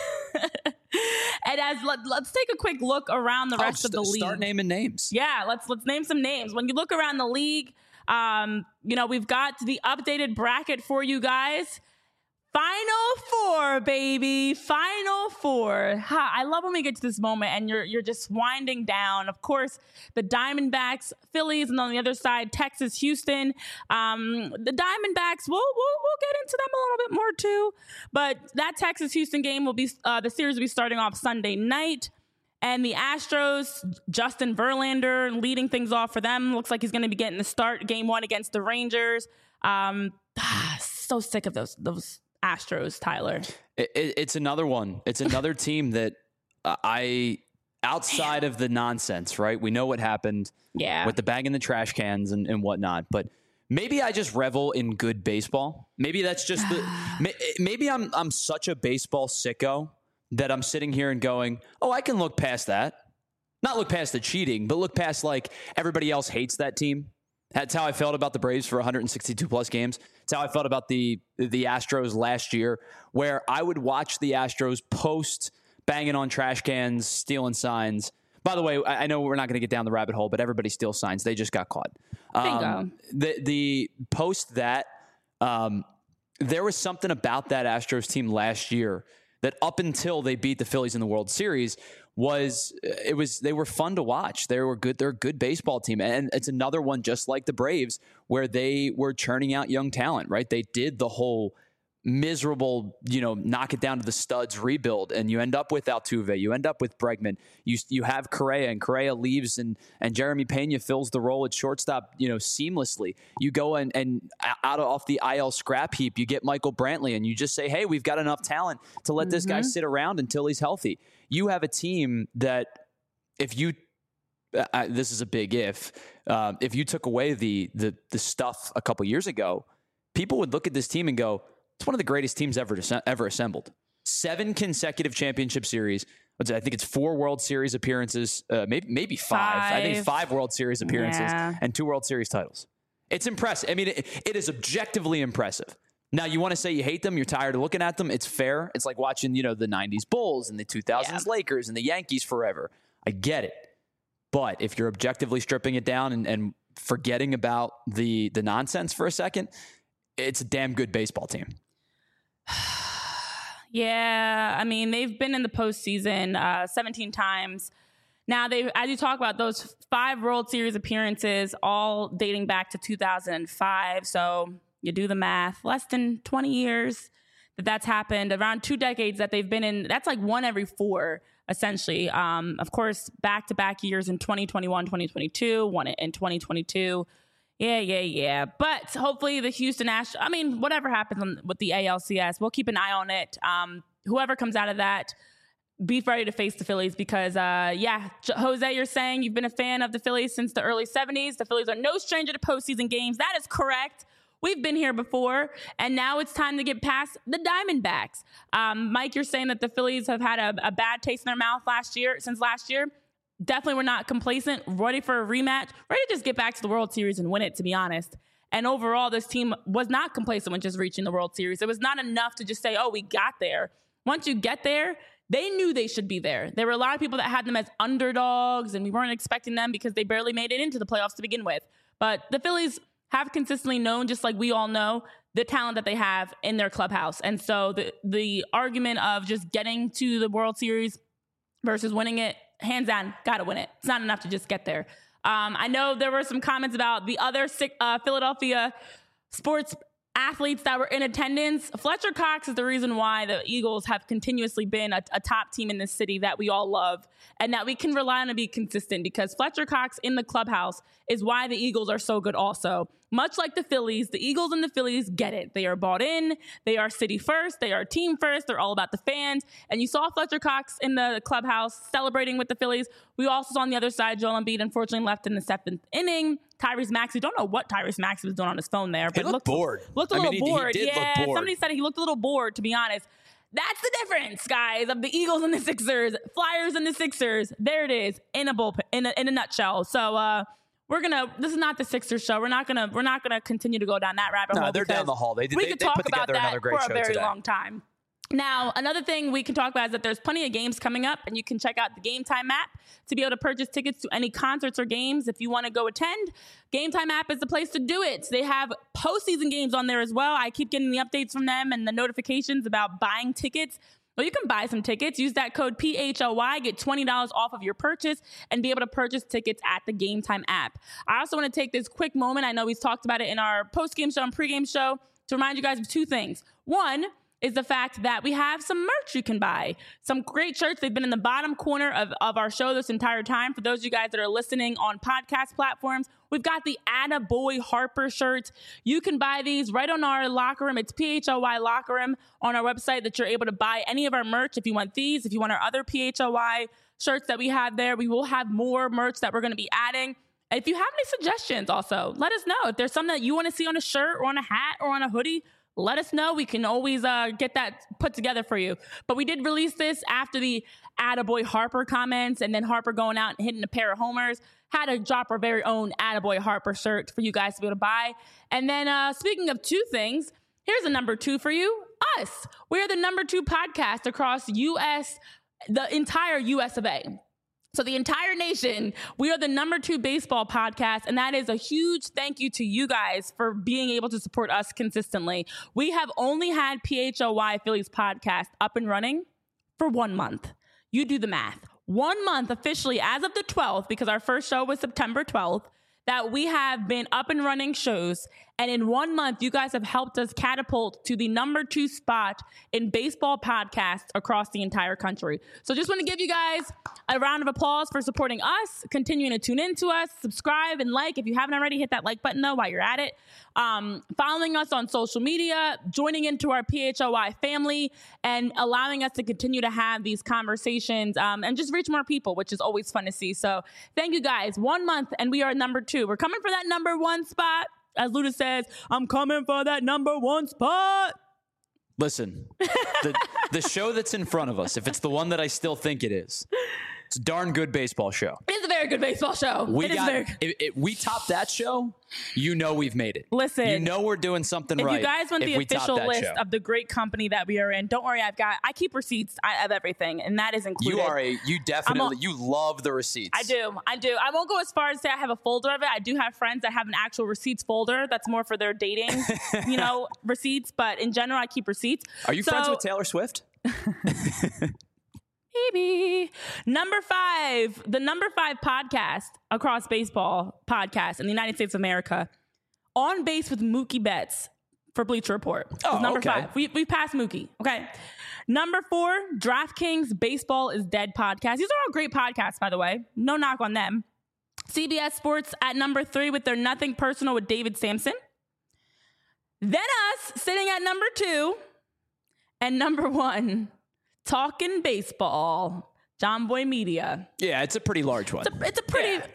And let's take a quick look around the rest of the league. Start naming names. Yeah, let's name some names. When you look around the league, we've got the updated bracket for you guys. Final four, baby. Final four. I love when we get to this moment and you're just winding down. Of course, the Diamondbacks, Phillies, and on the other side, Texas, Houston. The Diamondbacks, we'll get into them a little bit more too. But that Texas Houston game will be the series will be starting off Sunday night. And the Astros, Justin Verlander leading things off for them. Looks like he's going to be getting the start game one against the Rangers. So sick of those Astros, Tyler. It's another one. It's another team that outside of the nonsense, right? We know what happened with the bag in the trash cans and whatnot, but maybe I just revel in good baseball. Maybe that's just maybe I'm such a baseball sicko that I'm sitting here and going, oh, I can look past that. Not look past the cheating, but look past like everybody else hates that team. That's how I felt about the Braves for 162 plus games. It's how I felt about the Astros last year, where I would watch the Astros post banging on trash cans, stealing signs. By the way, I know we're not going to get down the rabbit hole, but everybody steals signs. They just got caught. Bingo. The post that, there was something about that Astros team last year that up until they beat the Phillies in the World Series they were fun to watch. They were good. They're a good baseball team. And it's another one just like the Braves where they were churning out young talent, right? They did the whole miserable, knock it down to the studs rebuild, and you end up with Altuve, you end up with Bregman, you have Correa, and Correa leaves, and Jeremy Pena fills the role at shortstop, seamlessly. You go and off the IL scrap heap, you get Michael Brantley, and you just say, hey, we've got enough talent to let this guy sit around until he's healthy. You have a team that if you this is a big if you took away the stuff a couple years ago, people would look at this team and go, it's one of the greatest teams ever assembled. 7 consecutive championship series. I think it's 4 World Series appearances, maybe 5. I think 5 World Series appearances and 2 World Series titles. It's impressive. I mean, it is objectively impressive. Now, you want to say you hate them, you're tired of looking at them. It's fair. It's like watching, the 90s Bulls and the 2000s Lakers and the Yankees forever. I get it. But if you're objectively stripping it down and forgetting about the nonsense for a second, it's a damn good baseball team. Yeah, I mean, they've been in the postseason 17 times. Now, as you talk about those 5 World Series appearances, all dating back to 2005. So you do the math, less than 20 years that's happened, around 2 decades that they've been in. That's like 1 every 4, essentially. Of course, back-to-back years in 2021, 2022, 1 in 2022. Yeah. But hopefully the Houston Astros, whatever happens with the ALCS, we'll keep an eye on it. Whoever comes out of that, be ready to face the Phillies because, Jose, you're saying you've been a fan of the Phillies since the early 70s. The Phillies are no stranger to postseason games. That is correct. We've been here before, and now it's time to get past the Diamondbacks. Mike, you're saying that the Phillies have had a bad taste in their mouth since last year. Definitely we're not complacent, ready for a rematch, ready to just get back to the World Series and win it, to be honest. And overall, this team was not complacent when just reaching the World Series. It was not enough to just say, oh, we got there. Once you get there, they knew they should be there. There were a lot of people that had them as underdogs, and we weren't expecting them because they barely made it into the playoffs to begin with. But the Phillies have consistently known, just like we all know, the talent that they have in their clubhouse. And so the argument of just getting to the World Series versus winning it, hands down, got to win it. It's not enough to just get there. I know there were some comments about the other Philadelphia sports athletes that were in attendance. Fletcher Cox is the reason why the Eagles have continuously been a top team in this city that we all love and that we can rely on to be consistent, because Fletcher Cox in the clubhouse is why the Eagles are so good also. Much like the Phillies, the Eagles and the Phillies get it. They are bought in. They are city first. They are team first. They're all about the fans. And you saw Fletcher Cox in the clubhouse celebrating with the Phillies. We also saw on the other side, Joel Embiid unfortunately left in the 7th inning. Tyrese Maxey, don't know what Tyrese Maxey was doing on his phone there. But he looked bored. Looked a little bored. He did look bored. Somebody said he looked a little bored, to be honest. That's the difference, guys, of the Eagles and the Sixers. Flyers and the Sixers. There it is, in a nutshell. So, this is not the Sixers show. We're not gonna continue to go down that rabbit hole. No, they're down the hall. They could talk put together about another great that show for a very today. long time. Now, another thing we can talk about is that there's plenty of games coming up, and you can check out the Game Time app to be able to purchase tickets to any concerts or games. If you want to go attend, Game Time app is the place to do it. They have postseason games on there as well. I keep getting the updates from them and the notifications about buying tickets. Well, you can buy some tickets. Use that code PHLY, get $20 off of your purchase, and be able to purchase tickets at the Game Time app. I also want to take this quick moment. I know we've talked about it in our post-game show and pre-game show to remind you guys of two things. One is the fact that we have some merch you can buy. Some great shirts. They've been in the bottom corner of our show this entire time. For those of you guys that are listening on podcast platforms, we've got the Attaboy Harper shirts. You can buy these right on our locker room. It's PHLY Locker Room on our website that you're able to buy any of our merch. If you want these, if you want our other PHLY shirts that we have there, we will have more merch that we're going to be adding. And if you have any suggestions also, let us know. If there's something that you want to see on a shirt or on a hat or on a hoodie, let us know. We can always get that put together for you. But we did release this after the Attaboy Harper comments, and then Harper going out and hitting a pair of homers. Had to drop our very own Attaboy Harper shirt for you guys to be able to buy. And then speaking of two things, here's a number two for you. Us. We're the number 2 podcast across the entire US of A. So the entire nation, we are the number 2 baseball podcast, and that is a huge thank you to you guys for being able to support us consistently. We have only had PHLY Phillies podcast up and running for 1 month. You do the math. 1 month officially as of the 12th, because our first show was September 12th, that we have been up and running shows. And in 1 month, you guys have helped us catapult to the number 2 spot in baseball podcasts across the entire country. So just want to give you guys a round of applause for supporting us, continuing to tune in to us, subscribe and like. If you haven't already, hit that like button though while you're at it. Following us on social media, joining into our PHLY family, and allowing us to continue to have these conversations and just reach more people, which is always fun to see. So thank you guys. 1 month and we are number 2. We're coming for that number 1 spot. As Luda says, I'm coming for that number 1 spot. Listen, the show that's in front of us, if it's the one that I still think it is, it's a darn good baseball show. It is a very good baseball show. We top that show, you know we've made it. Listen. You know we're doing something right. If you guys want the official list of the great company that we are in, don't worry, I keep receipts of everything, and that is included. You love the receipts. I do. I won't go as far as say I have a folder of it. I do have friends that have an actual receipts folder that's more for their dating, receipts, but in general, I keep receipts. Are you friends with Taylor Swift? Maybe. Number 5, the number 5 podcast across baseball podcasts in the United States of America, On Base with Mookie Betts for Bleacher Report. Oh, number okay. 5. We passed Mookie. Okay. Number 4, DraftKings Baseball is Dead podcast. These are all great podcasts, by the way. No knock on them. CBS Sports at number 3 with their Nothing Personal with David Sampson. Then us sitting at number 2 and number 1. Talking Baseball, John Boy Media. Yeah, it's a pretty large one. It's a pretty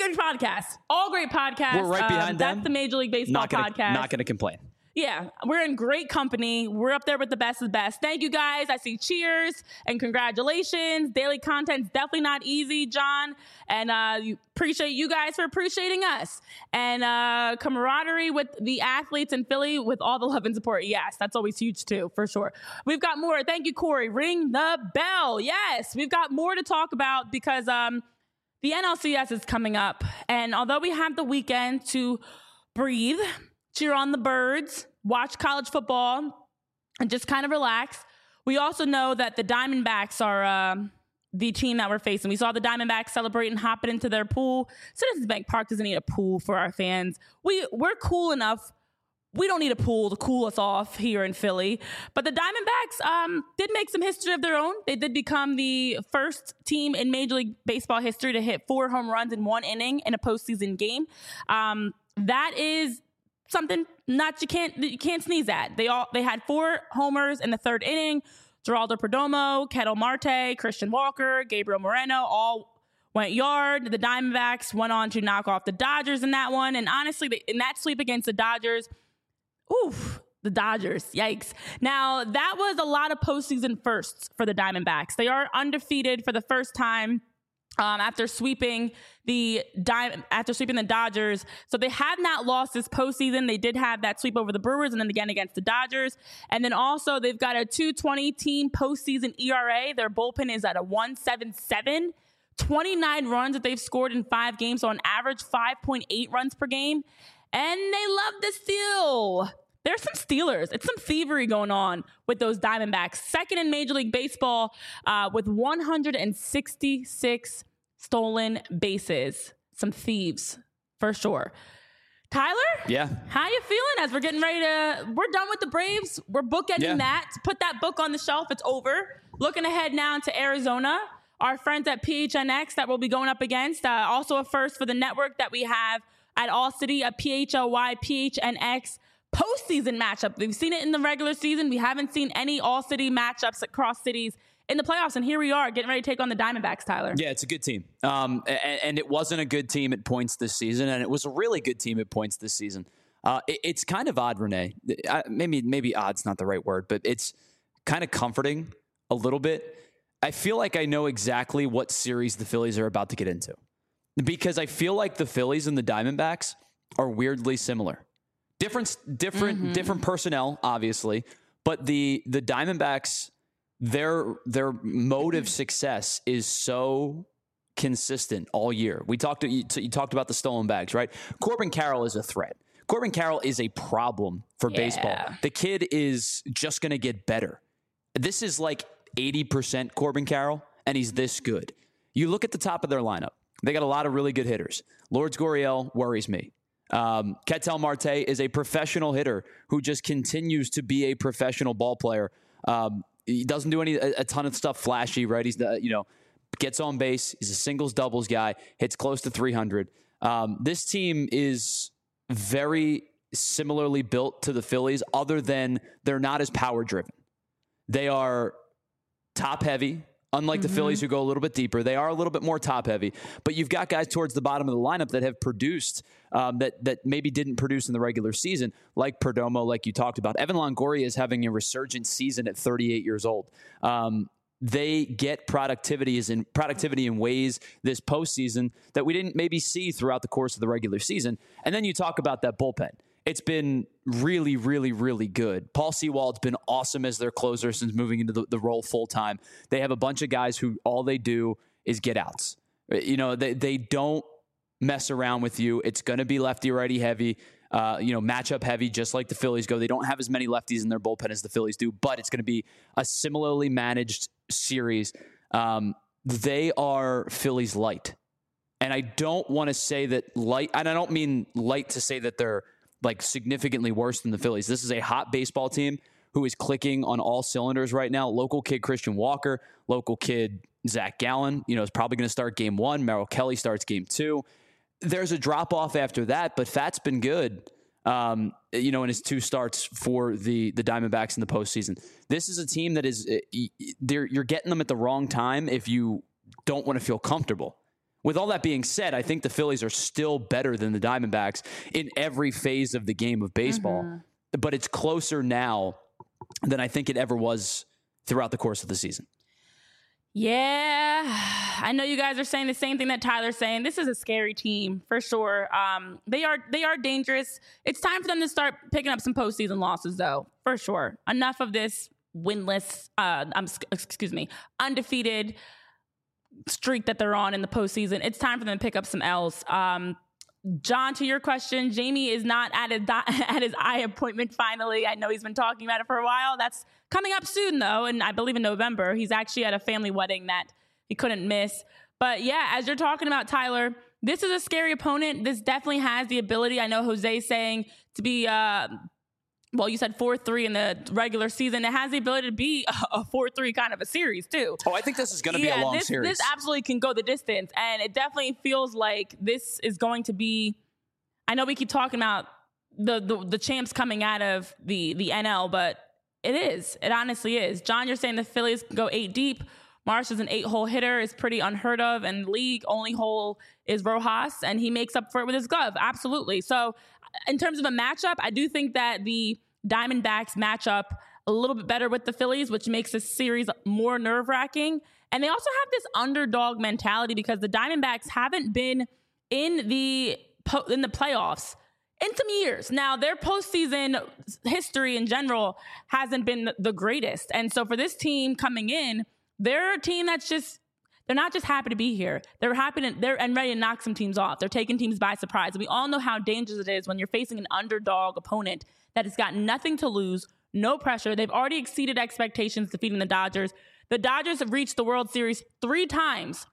good podcasts. All great podcasts. We're right behind them. That's the Major League Baseball podcast. Not going to complain. Yeah, we're in great company. We're up there with the best of the best. Thank you guys. I see cheers and congratulations. Daily content's definitely not easy, John. And appreciate you guys for appreciating us. And camaraderie with the athletes in Philly with all the love and support. Yes, that's always huge too, for sure. We've got more. Thank you, Corey. Ring the bell. Yes, we've got more to talk about because the NLCS is coming up. And although we have the weekend to breathe, cheer on the birds, watch college football, and just kind of relax, we also know that the Diamondbacks are the team that we're facing. We saw the Diamondbacks celebrate and hop it into their pool. Citizens Bank Park doesn't need a pool for our fans. We're cool enough. We don't need a pool to cool us off here in Philly. But the Diamondbacks did make some history of their own. They did become the first team in Major League Baseball history to hit 4 home runs in 1 inning in a postseason game. That is something you can't sneeze at. They had 4 homers in the 3rd inning. Geraldo Perdomo, Ketel Marte, Christian Walker, Gabriel Moreno all went yard. The Diamondbacks went on to knock off the Dodgers in that one. And honestly, in that sweep against the Dodgers, the Dodgers, yikes. Now, that was a lot of postseason firsts for the Diamondbacks. They are undefeated for the first time after sweeping the Dodgers. So they have not lost this postseason. They did have that sweep over the Brewers and then again against the Dodgers. And then also they've got a 2.20 team postseason ERA. Their bullpen is at a 1.77. 29 runs that they've scored in 5 games. So on average, 5.8 runs per game. And they love to steal. There's some stealers. It's some thievery going on with those Diamondbacks. Second in Major League Baseball with 166 stolen bases. Some thieves, for sure. Tyler? Yeah. How you feeling as we're getting ready we're done with the Braves. We're bookending that. Put that book on the shelf. It's over. Looking ahead now to Arizona. Our friends at PHNX that we'll be going up against. Also a first for the network that we have at All City, a PHLY, PHNX postseason matchup. We've seen it in the regular season. We haven't seen any all-city matchups across cities in the playoffs, and here we are getting ready to take on the Diamondbacks, Tyler. Yeah, it's a good team. And it wasn't a good team at points this season, and it was a really good team at points this season. It's kind of odd, Renee. Maybe odd's not the right word, but it's kind of comforting a little bit. I feel like I know exactly what series the Phillies are about to get into because I feel like the Phillies and the Diamondbacks are weirdly similar. Different personnel, obviously, but the Diamondbacks, their mode of success is so consistent all year. You talked about the stolen bags, right? Corbin Carroll is a threat. Corbin Carroll is a problem for baseball. The kid is just going to get better. This is like 80% Corbin Carroll, and he's this good. You look at the top of their lineup. They got a lot of really good hitters. Lourdes Gurriel worries me. Ketel Marte is a professional hitter who just continues to be a professional ball player. He doesn't do a ton of stuff flashy, right? He's gets on base. He's a singles doubles guy, hits close to 300. This team is very similarly built to the Phillies, other than they're not as power driven. They are top heavy. Unlike the Phillies, who go a little bit deeper, they are a little bit more top heavy. But you've got guys towards the bottom of the lineup that have produced that maybe didn't produce in the regular season, like Perdomo, like you talked about. Evan Longoria is having a resurgent season at 38 years old. They get productivity in ways this postseason that we didn't maybe see throughout the course of the regular season. And then you talk about that bullpen. It's been really, really, really good. Paul Sewald's been awesome as their closer since moving into the role full time. They have a bunch of guys who all they do is get outs. They don't mess around with you. It's going to be lefty righty heavy, matchup heavy, just like the Phillies go. They don't have as many lefties in their bullpen as the Phillies do, but it's going to be a similarly managed series. They are Phillies light. And I don't want to say that light, and I don't mean light to say that they're like significantly worse than the Phillies. This is a hot baseball team who is clicking on all cylinders right now. Local kid Christian Walker, local kid Zach Gallen, is probably going to start game 1. Merrill Kelly starts game 2. There's a drop off after that, but Fat's been good, in his 2 starts for the Diamondbacks in the postseason. This is a team that is, you're getting them at the wrong time if you don't want to feel comfortable. With all that being said, I think the Phillies are still better than the Diamondbacks in every phase of the game of baseball. But it's closer now than I think it ever was throughout the course of the season. Yeah, I know you guys are saying the same thing that Tyler's saying. This is a scary team for sure. They are dangerous. It's time for them to start picking up some postseason losses, though, for sure. Enough of this winless, undefeated streak that they're on in the postseason. It's time for them to pick up some L's. John, to your question, Jamie is not at his eye appointment finally. I know he's been talking about it for a while. That's coming up soon, though, and I believe in November. He's actually at a family wedding that he couldn't miss. But yeah, as you're talking about, Tyler, this is a scary opponent. This definitely has the ability, I know Jose's saying, to be, well, you said 4-3 in the regular season. It has the ability to be a 4-3 kind of a series, too. Oh, I think this is going to be a long series. This absolutely can go the distance. And it definitely feels like this is going to be, I know we keep talking about the champs coming out of the NL, but it is. It honestly is. John, you're saying the Phillies can go 8 deep. Marsh is an 8-hole hitter, is pretty unheard of, and league only hole is Rojas, and he makes up for it with his glove. Absolutely. So in terms of a matchup, I do think that the Diamondbacks match up a little bit better with the Phillies, which makes this series more nerve-wracking. And they also have this underdog mentality because the Diamondbacks haven't been in the playoffs in some years. Now, their postseason history in general hasn't been the greatest. And so for this team coming in, they're a team that's just, they're not just happy to be here. They're happy they're ready to knock some teams off. They're taking teams by surprise. And we all know how dangerous it is when you're facing an underdog opponent that has got nothing to lose, no pressure. They've already exceeded expectations defeating the Dodgers. The Dodgers have reached the World Series 3 times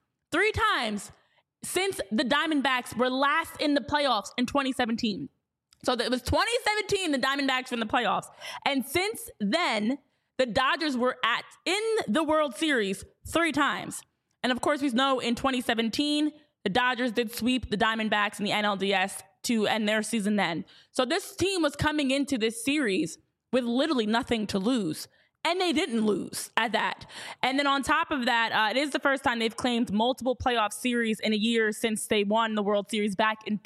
since the Diamondbacks were last in the playoffs in 2017. So it was 2017 the Diamondbacks were in the playoffs. And since then, the Dodgers were in the World Series 3 times. And of course, we know in 2017, the Dodgers did sweep the Diamondbacks in the NLDS to end their season then. So this team was coming into this series with literally nothing to lose. And they didn't lose at that. And then on top of that, it is the first time they've claimed multiple playoff series in a year since they won the World Series back in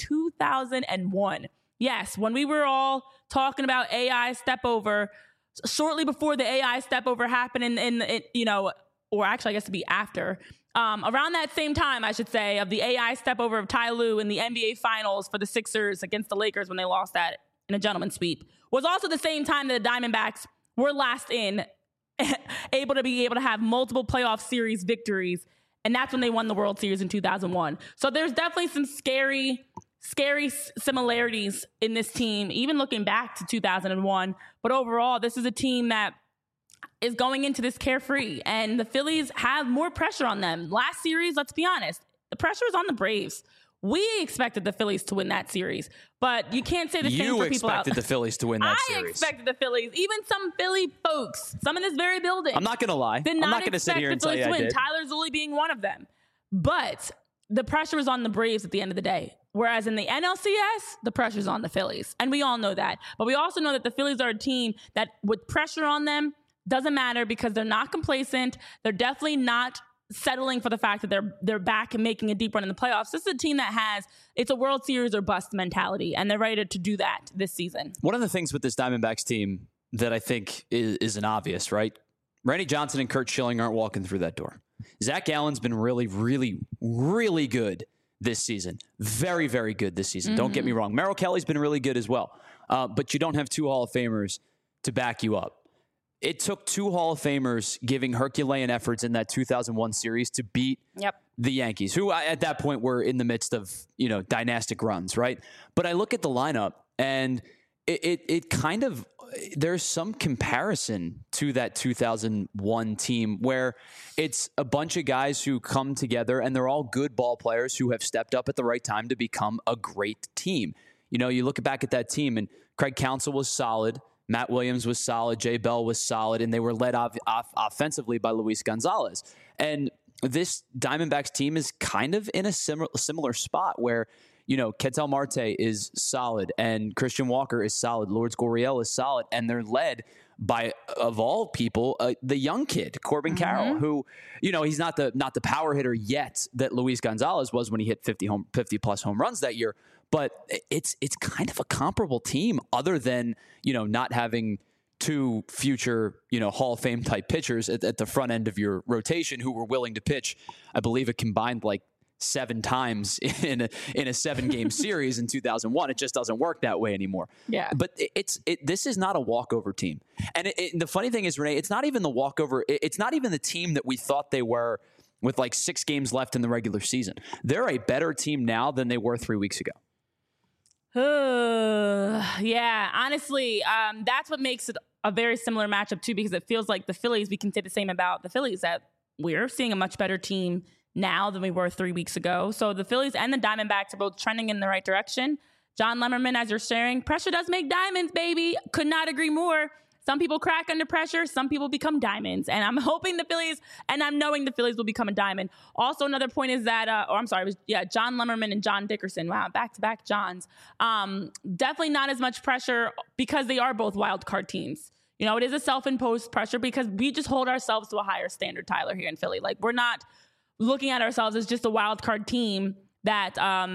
2001. Yes, when we were all talking about AI step over, shortly before the AI step over happened or actually I guess to be after, around that same time, I should say, of the AI step over of Ty Lue in the NBA Finals for the Sixers against the Lakers when they lost that in a gentleman's sweep, was also the same time that the Diamondbacks were last in, able to have multiple playoff series victories. And that's when they won the World Series in 2001. So there's definitely some scary similarities in this team, even looking back to 2001. But overall, this is a team that is going into this carefree, and the Phillies have more pressure on them. Last series, let's be honest, the pressure is on the Braves. We expected the Phillies to win that series, but you can't say the same for people out. You expected the Phillies to win that series. I expected the Phillies. Even some Philly folks, some in this very building. I'm not going to lie. I'm not going to sit here and tell you I did. Tyler Zulli being one of them. But the pressure is on the Braves at the end of the day. Whereas in the NLCS, the pressure is on the Phillies. And we all know that. But we also know that the Phillies are a team that with pressure on them, doesn't matter because they're not complacent. They're definitely not settling for the fact that they're back and making a deep run in the playoffs. This is a team that it's a World Series or bust mentality, and they're ready to do that this season. One of the things with this Diamondbacks team that I think is an obvious, right? Randy Johnson and Curt Schilling aren't walking through that door. Zach Gallen's been really, really, really good this season. Very, very good this season. Don't get me wrong. Merrill Kelly's been really good as well. But you don't have 2 Hall of Famers to back you up. It took 2 Hall of Famers giving Herculean efforts in that 2001 series to beat the Yankees, who at that point were in the midst of, dynastic runs, right? But I look at the lineup and it kind of, there's some comparison to that 2001 team where it's a bunch of guys who come together and they're all good ball players who have stepped up at the right time to become a great team. You look back at that team and Craig Counsell was solid. Matt Williams was solid. Jay Bell was solid. And they were led off offensively by Luis Gonzalez. And this Diamondbacks team is kind of in a similar spot where, Ketel Marte is solid and Christian Walker is solid. Lourdes Gurriel is solid. And they're led by, of all people, the young kid, Corbin Carroll, who, he's not the power hitter yet that Luis Gonzalez was when he hit 50 plus home runs that year. But it's kind of a comparable team, other than, not having two future, Hall of Fame type pitchers at the front end of your rotation who were willing to pitch, I believe, a combined 7 times in a 7-game series in 2001. It just doesn't work that way anymore. Yeah. But this is not a walkover team. And the funny thing is, Renee, it's not even the walkover. It's not even the team that we thought they were with 6 games left in the regular season. They're a better team now than they were 3 weeks ago. Yeah, honestly, that's what makes it a very similar matchup too, because it feels like the Phillies, we can say the same about the Phillies, that we're seeing a much better team now than we were 3 weeks ago. So the Phillies and the Diamondbacks are both trending in the right direction. John Lemmerman, as you're sharing, pressure does make diamonds, baby. Could not agree more. Some people crack under pressure. Some people become diamonds. And I'm hoping the Phillies, and I'm knowing the Phillies will become a diamond. Also, another point is that, John Lemmerman and John Dickerson. Wow, back-to-back Johns. Definitely not as much pressure because they are both wild card teams. It is a self-imposed pressure because we just hold ourselves to a higher standard, Tyler, here in Philly. We're not looking at ourselves as just a wild card team that,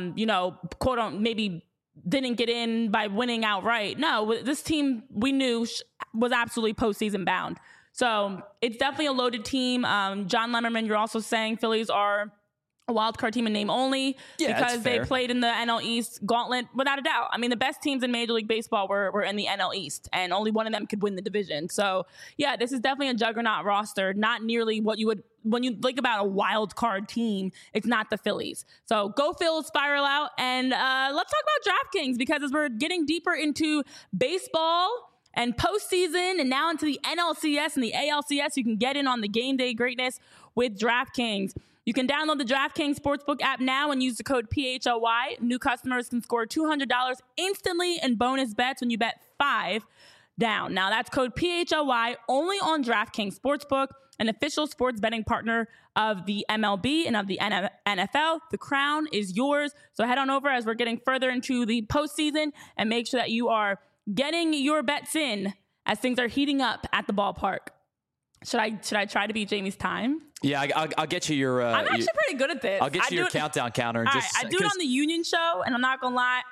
quote unquote, maybe didn't get in by winning outright. No, this team we knew was absolutely postseason bound. So it's definitely a loaded team. John Lemmerman, you're also saying Phillies are a wild card team in name only because they played in the NL East gauntlet, without a doubt. I mean, the best teams in Major League Baseball were in the NL East, and only one of them could win the division. So yeah, this is definitely a juggernaut roster, not nearly what you would, when you think about a wild card team, it's not the Phillies. So go Phils, spiral out. And let's talk about DraftKings, because as we're getting deeper into baseball and postseason and now into the NLCS and the ALCS, you can get in on the game day greatness with DraftKings. You can download the DraftKings Sportsbook app now and use the code PHLY. New customers can score $200 instantly in bonus bets when you bet $5 down. Now, that's code PHLY only on DraftKings Sportsbook, an official sports betting partner of the MLB and of the NFL. The crown is yours. So head on over as we're getting further into the postseason and make sure that you are getting your bets in as things are heating up at the ballpark. Should I try to beat Jamie's time? Yeah, I'll get you your... I'm actually pretty good at this. I'll get you your countdown counter. All right, I do it on the Union show, and I'm not going to lie,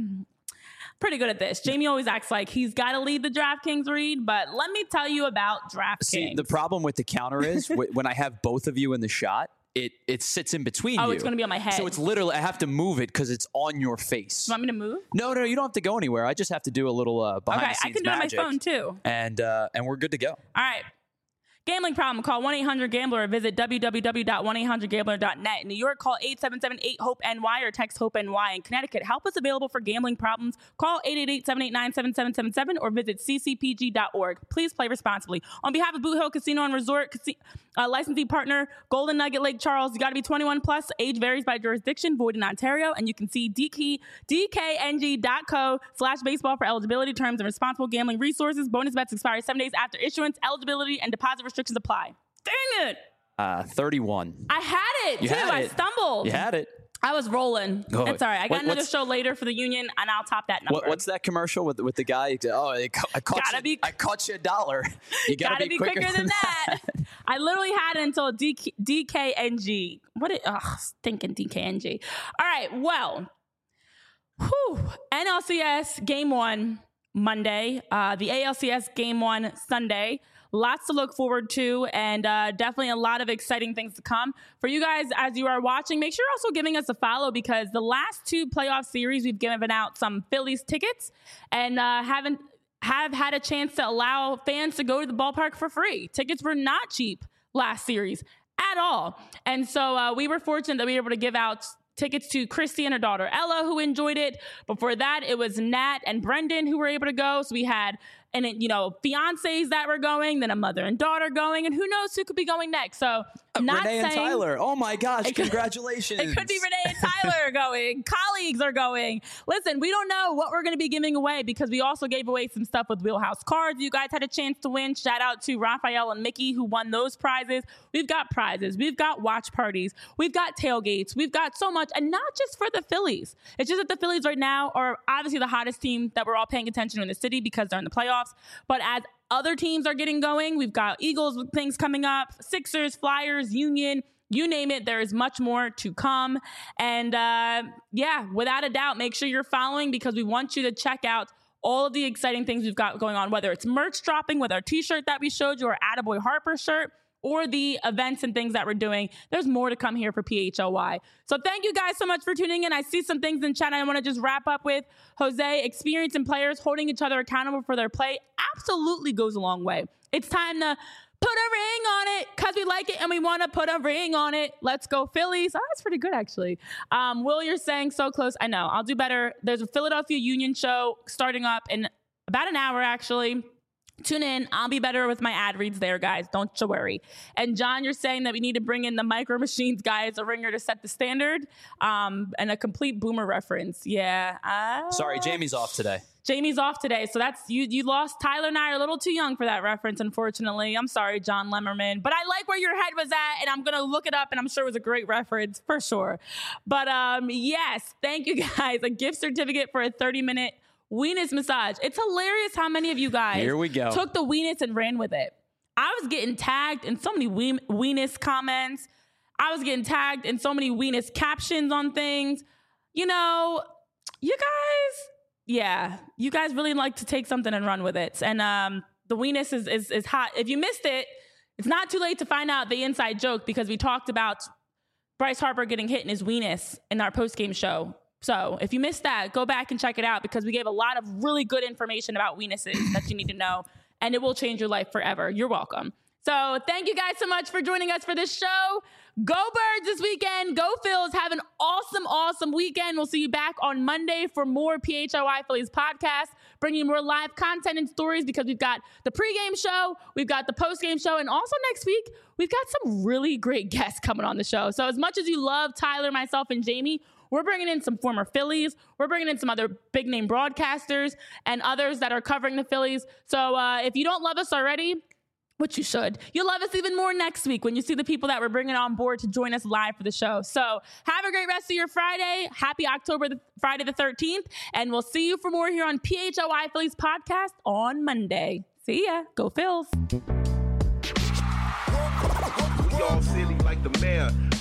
pretty good at this. Jamie always acts like he's got to lead the DraftKings read, but let me tell you about DraftKings. See, the problem with the counter is when I have both of you in the shot, it sits in between you. Oh, it's going to be on my head. So it's literally, I have to move it because it's on your face. You want me to move? No, you don't have to go anywhere. I just have to do a little behind the scenes magic. I can do it on my phone too. And we're good to go. All right. Gambling problem, call 1-800-GAMBLER or visit www.1800gambler.net. In New York, call 877-8-HOPE-NY or text HOPE-NY. In Connecticut, help is available for gambling problems. Call 888-789-7777 or visit ccpg.org. Please play responsibly. On behalf of Boot Hill Casino and Resort, licensee partner, Golden Nugget Lake Charles, you got to be 21 plus. Age varies by jurisdiction, void in Ontario. And you can see dkng.co/baseball for eligibility, terms, and responsible gambling resources. Bonus bets expire 7 days after issuance. Eligibility and deposit restrictions apply. Dang it. 31. I had it, too. I stumbled. You had it. I was rolling. It's all right. I got another show later for the Union, and I'll top that number. What's that commercial with the guy? Oh, I caught you $1. You gotta be quicker than that. I literally had it until DKNG. Stinking DKNG. All right, well, NLCS Game 1 Monday, the ALCS Game 1 Sunday. Lots to look forward to, and definitely a lot of exciting things to come. For you guys, as you are watching, make sure you're also giving us a follow, because the last 2 playoff series, we've given out some Phillies tickets and have had a chance to allow fans to go to the ballpark for free. Tickets were not cheap last series at all. And so we were fortunate that we were able to give out tickets to Christy and her daughter Ella, who enjoyed it. Before that, it was Nat and Brendan who were able to go. So we had, fiancés that were going, then a mother and daughter going, and who knows who could be going next. So Renee and Tyler. Oh my gosh, congratulations. It could be Renee and Tyler going. leagues are going. Listen, we don't know what we're going to be giving away because we also gave away some stuff with Wheelhouse Cards. You guys had a chance to win. Shout out to Raphael and Mickey who won those prizes. We've got prizes. We've got watch parties. We've got tailgates. We've got so much, and not just for the Phillies. It's just that the Phillies right now are obviously the hottest team that we're all paying attention to in the city because they're in the playoffs. But as other teams are getting going, we've got Eagles with things coming up, Sixers, Flyers, Union, you name it. There is much more to come. And without a doubt, make sure you're following because we want you to check out all of the exciting things we've got going on, whether it's merch dropping with our t-shirt that we showed you, our Attaboy Harper shirt, or the events and things that we're doing. There's more to come here for PHLY. So thank you guys so much for tuning in. I see some things in chat I want to just wrap up with. Jose, experience and players holding each other accountable for their play absolutely goes a long way. It's time to put a ring on it because we like it and we want to put a ring on it. Let's go Phillies. Oh, that's pretty good, actually. Will, you're saying so close. I know. I'll do better. There's a Philadelphia Union show starting up in about an hour, actually. Tune in. I'll be better with my ad reads there, guys. Don't you worry. And John, you're saying that we need to bring in the Micro Machines guy as a ringer to set the standard and a complete Boomer reference. Yeah. Sorry, Jamie's off today. Jamie's off today. So that's you lost. Tyler and I are a little too young for that reference, unfortunately. I'm sorry, John Lemmerman. But I like where your head was at, and I'm going to look it up, and I'm sure it was a great reference for sure. But yes, thank you guys. A gift certificate for a 30-minute Weenus massage. It's hilarious how many of you guys Here we go. took the Weenus and ran with it. I was getting tagged in so many Weenus comments. I was getting tagged in so many Weenus captions on things. You know, you guys really like to take something and run with it. And the Weenus is hot. If you missed it, it's not too late to find out the inside joke because we talked about Bryce Harper getting hit in his Weenus in our postgame show. So if you missed that, go back and check it out because we gave a lot of really good information about Weenuses that you need to know, and it will change your life forever. You're welcome. So thank you guys so much for joining us for this show. Go Birds this weekend. Go Phils. Have an awesome, awesome weekend. We'll see you back on Monday for more PHLY Phillies podcast, bringing more live content and stories because we've got the pregame show, we've got the postgame show, and also next week, we've got some really great guests coming on the show. So as much as you love Tyler, myself, and Jamie, we're bringing in some former Phillies. We're bringing in some other big-name broadcasters and others that are covering the Phillies. So if you don't love us already, which you should, you'll love us even more next week when you see the people that we're bringing on board to join us live for the show. So have a great rest of your Friday. Happy Friday the 13th. And we'll see you for more here on PHLY Phillies podcast on Monday. See ya. Go Phils. We all silly like the mayor.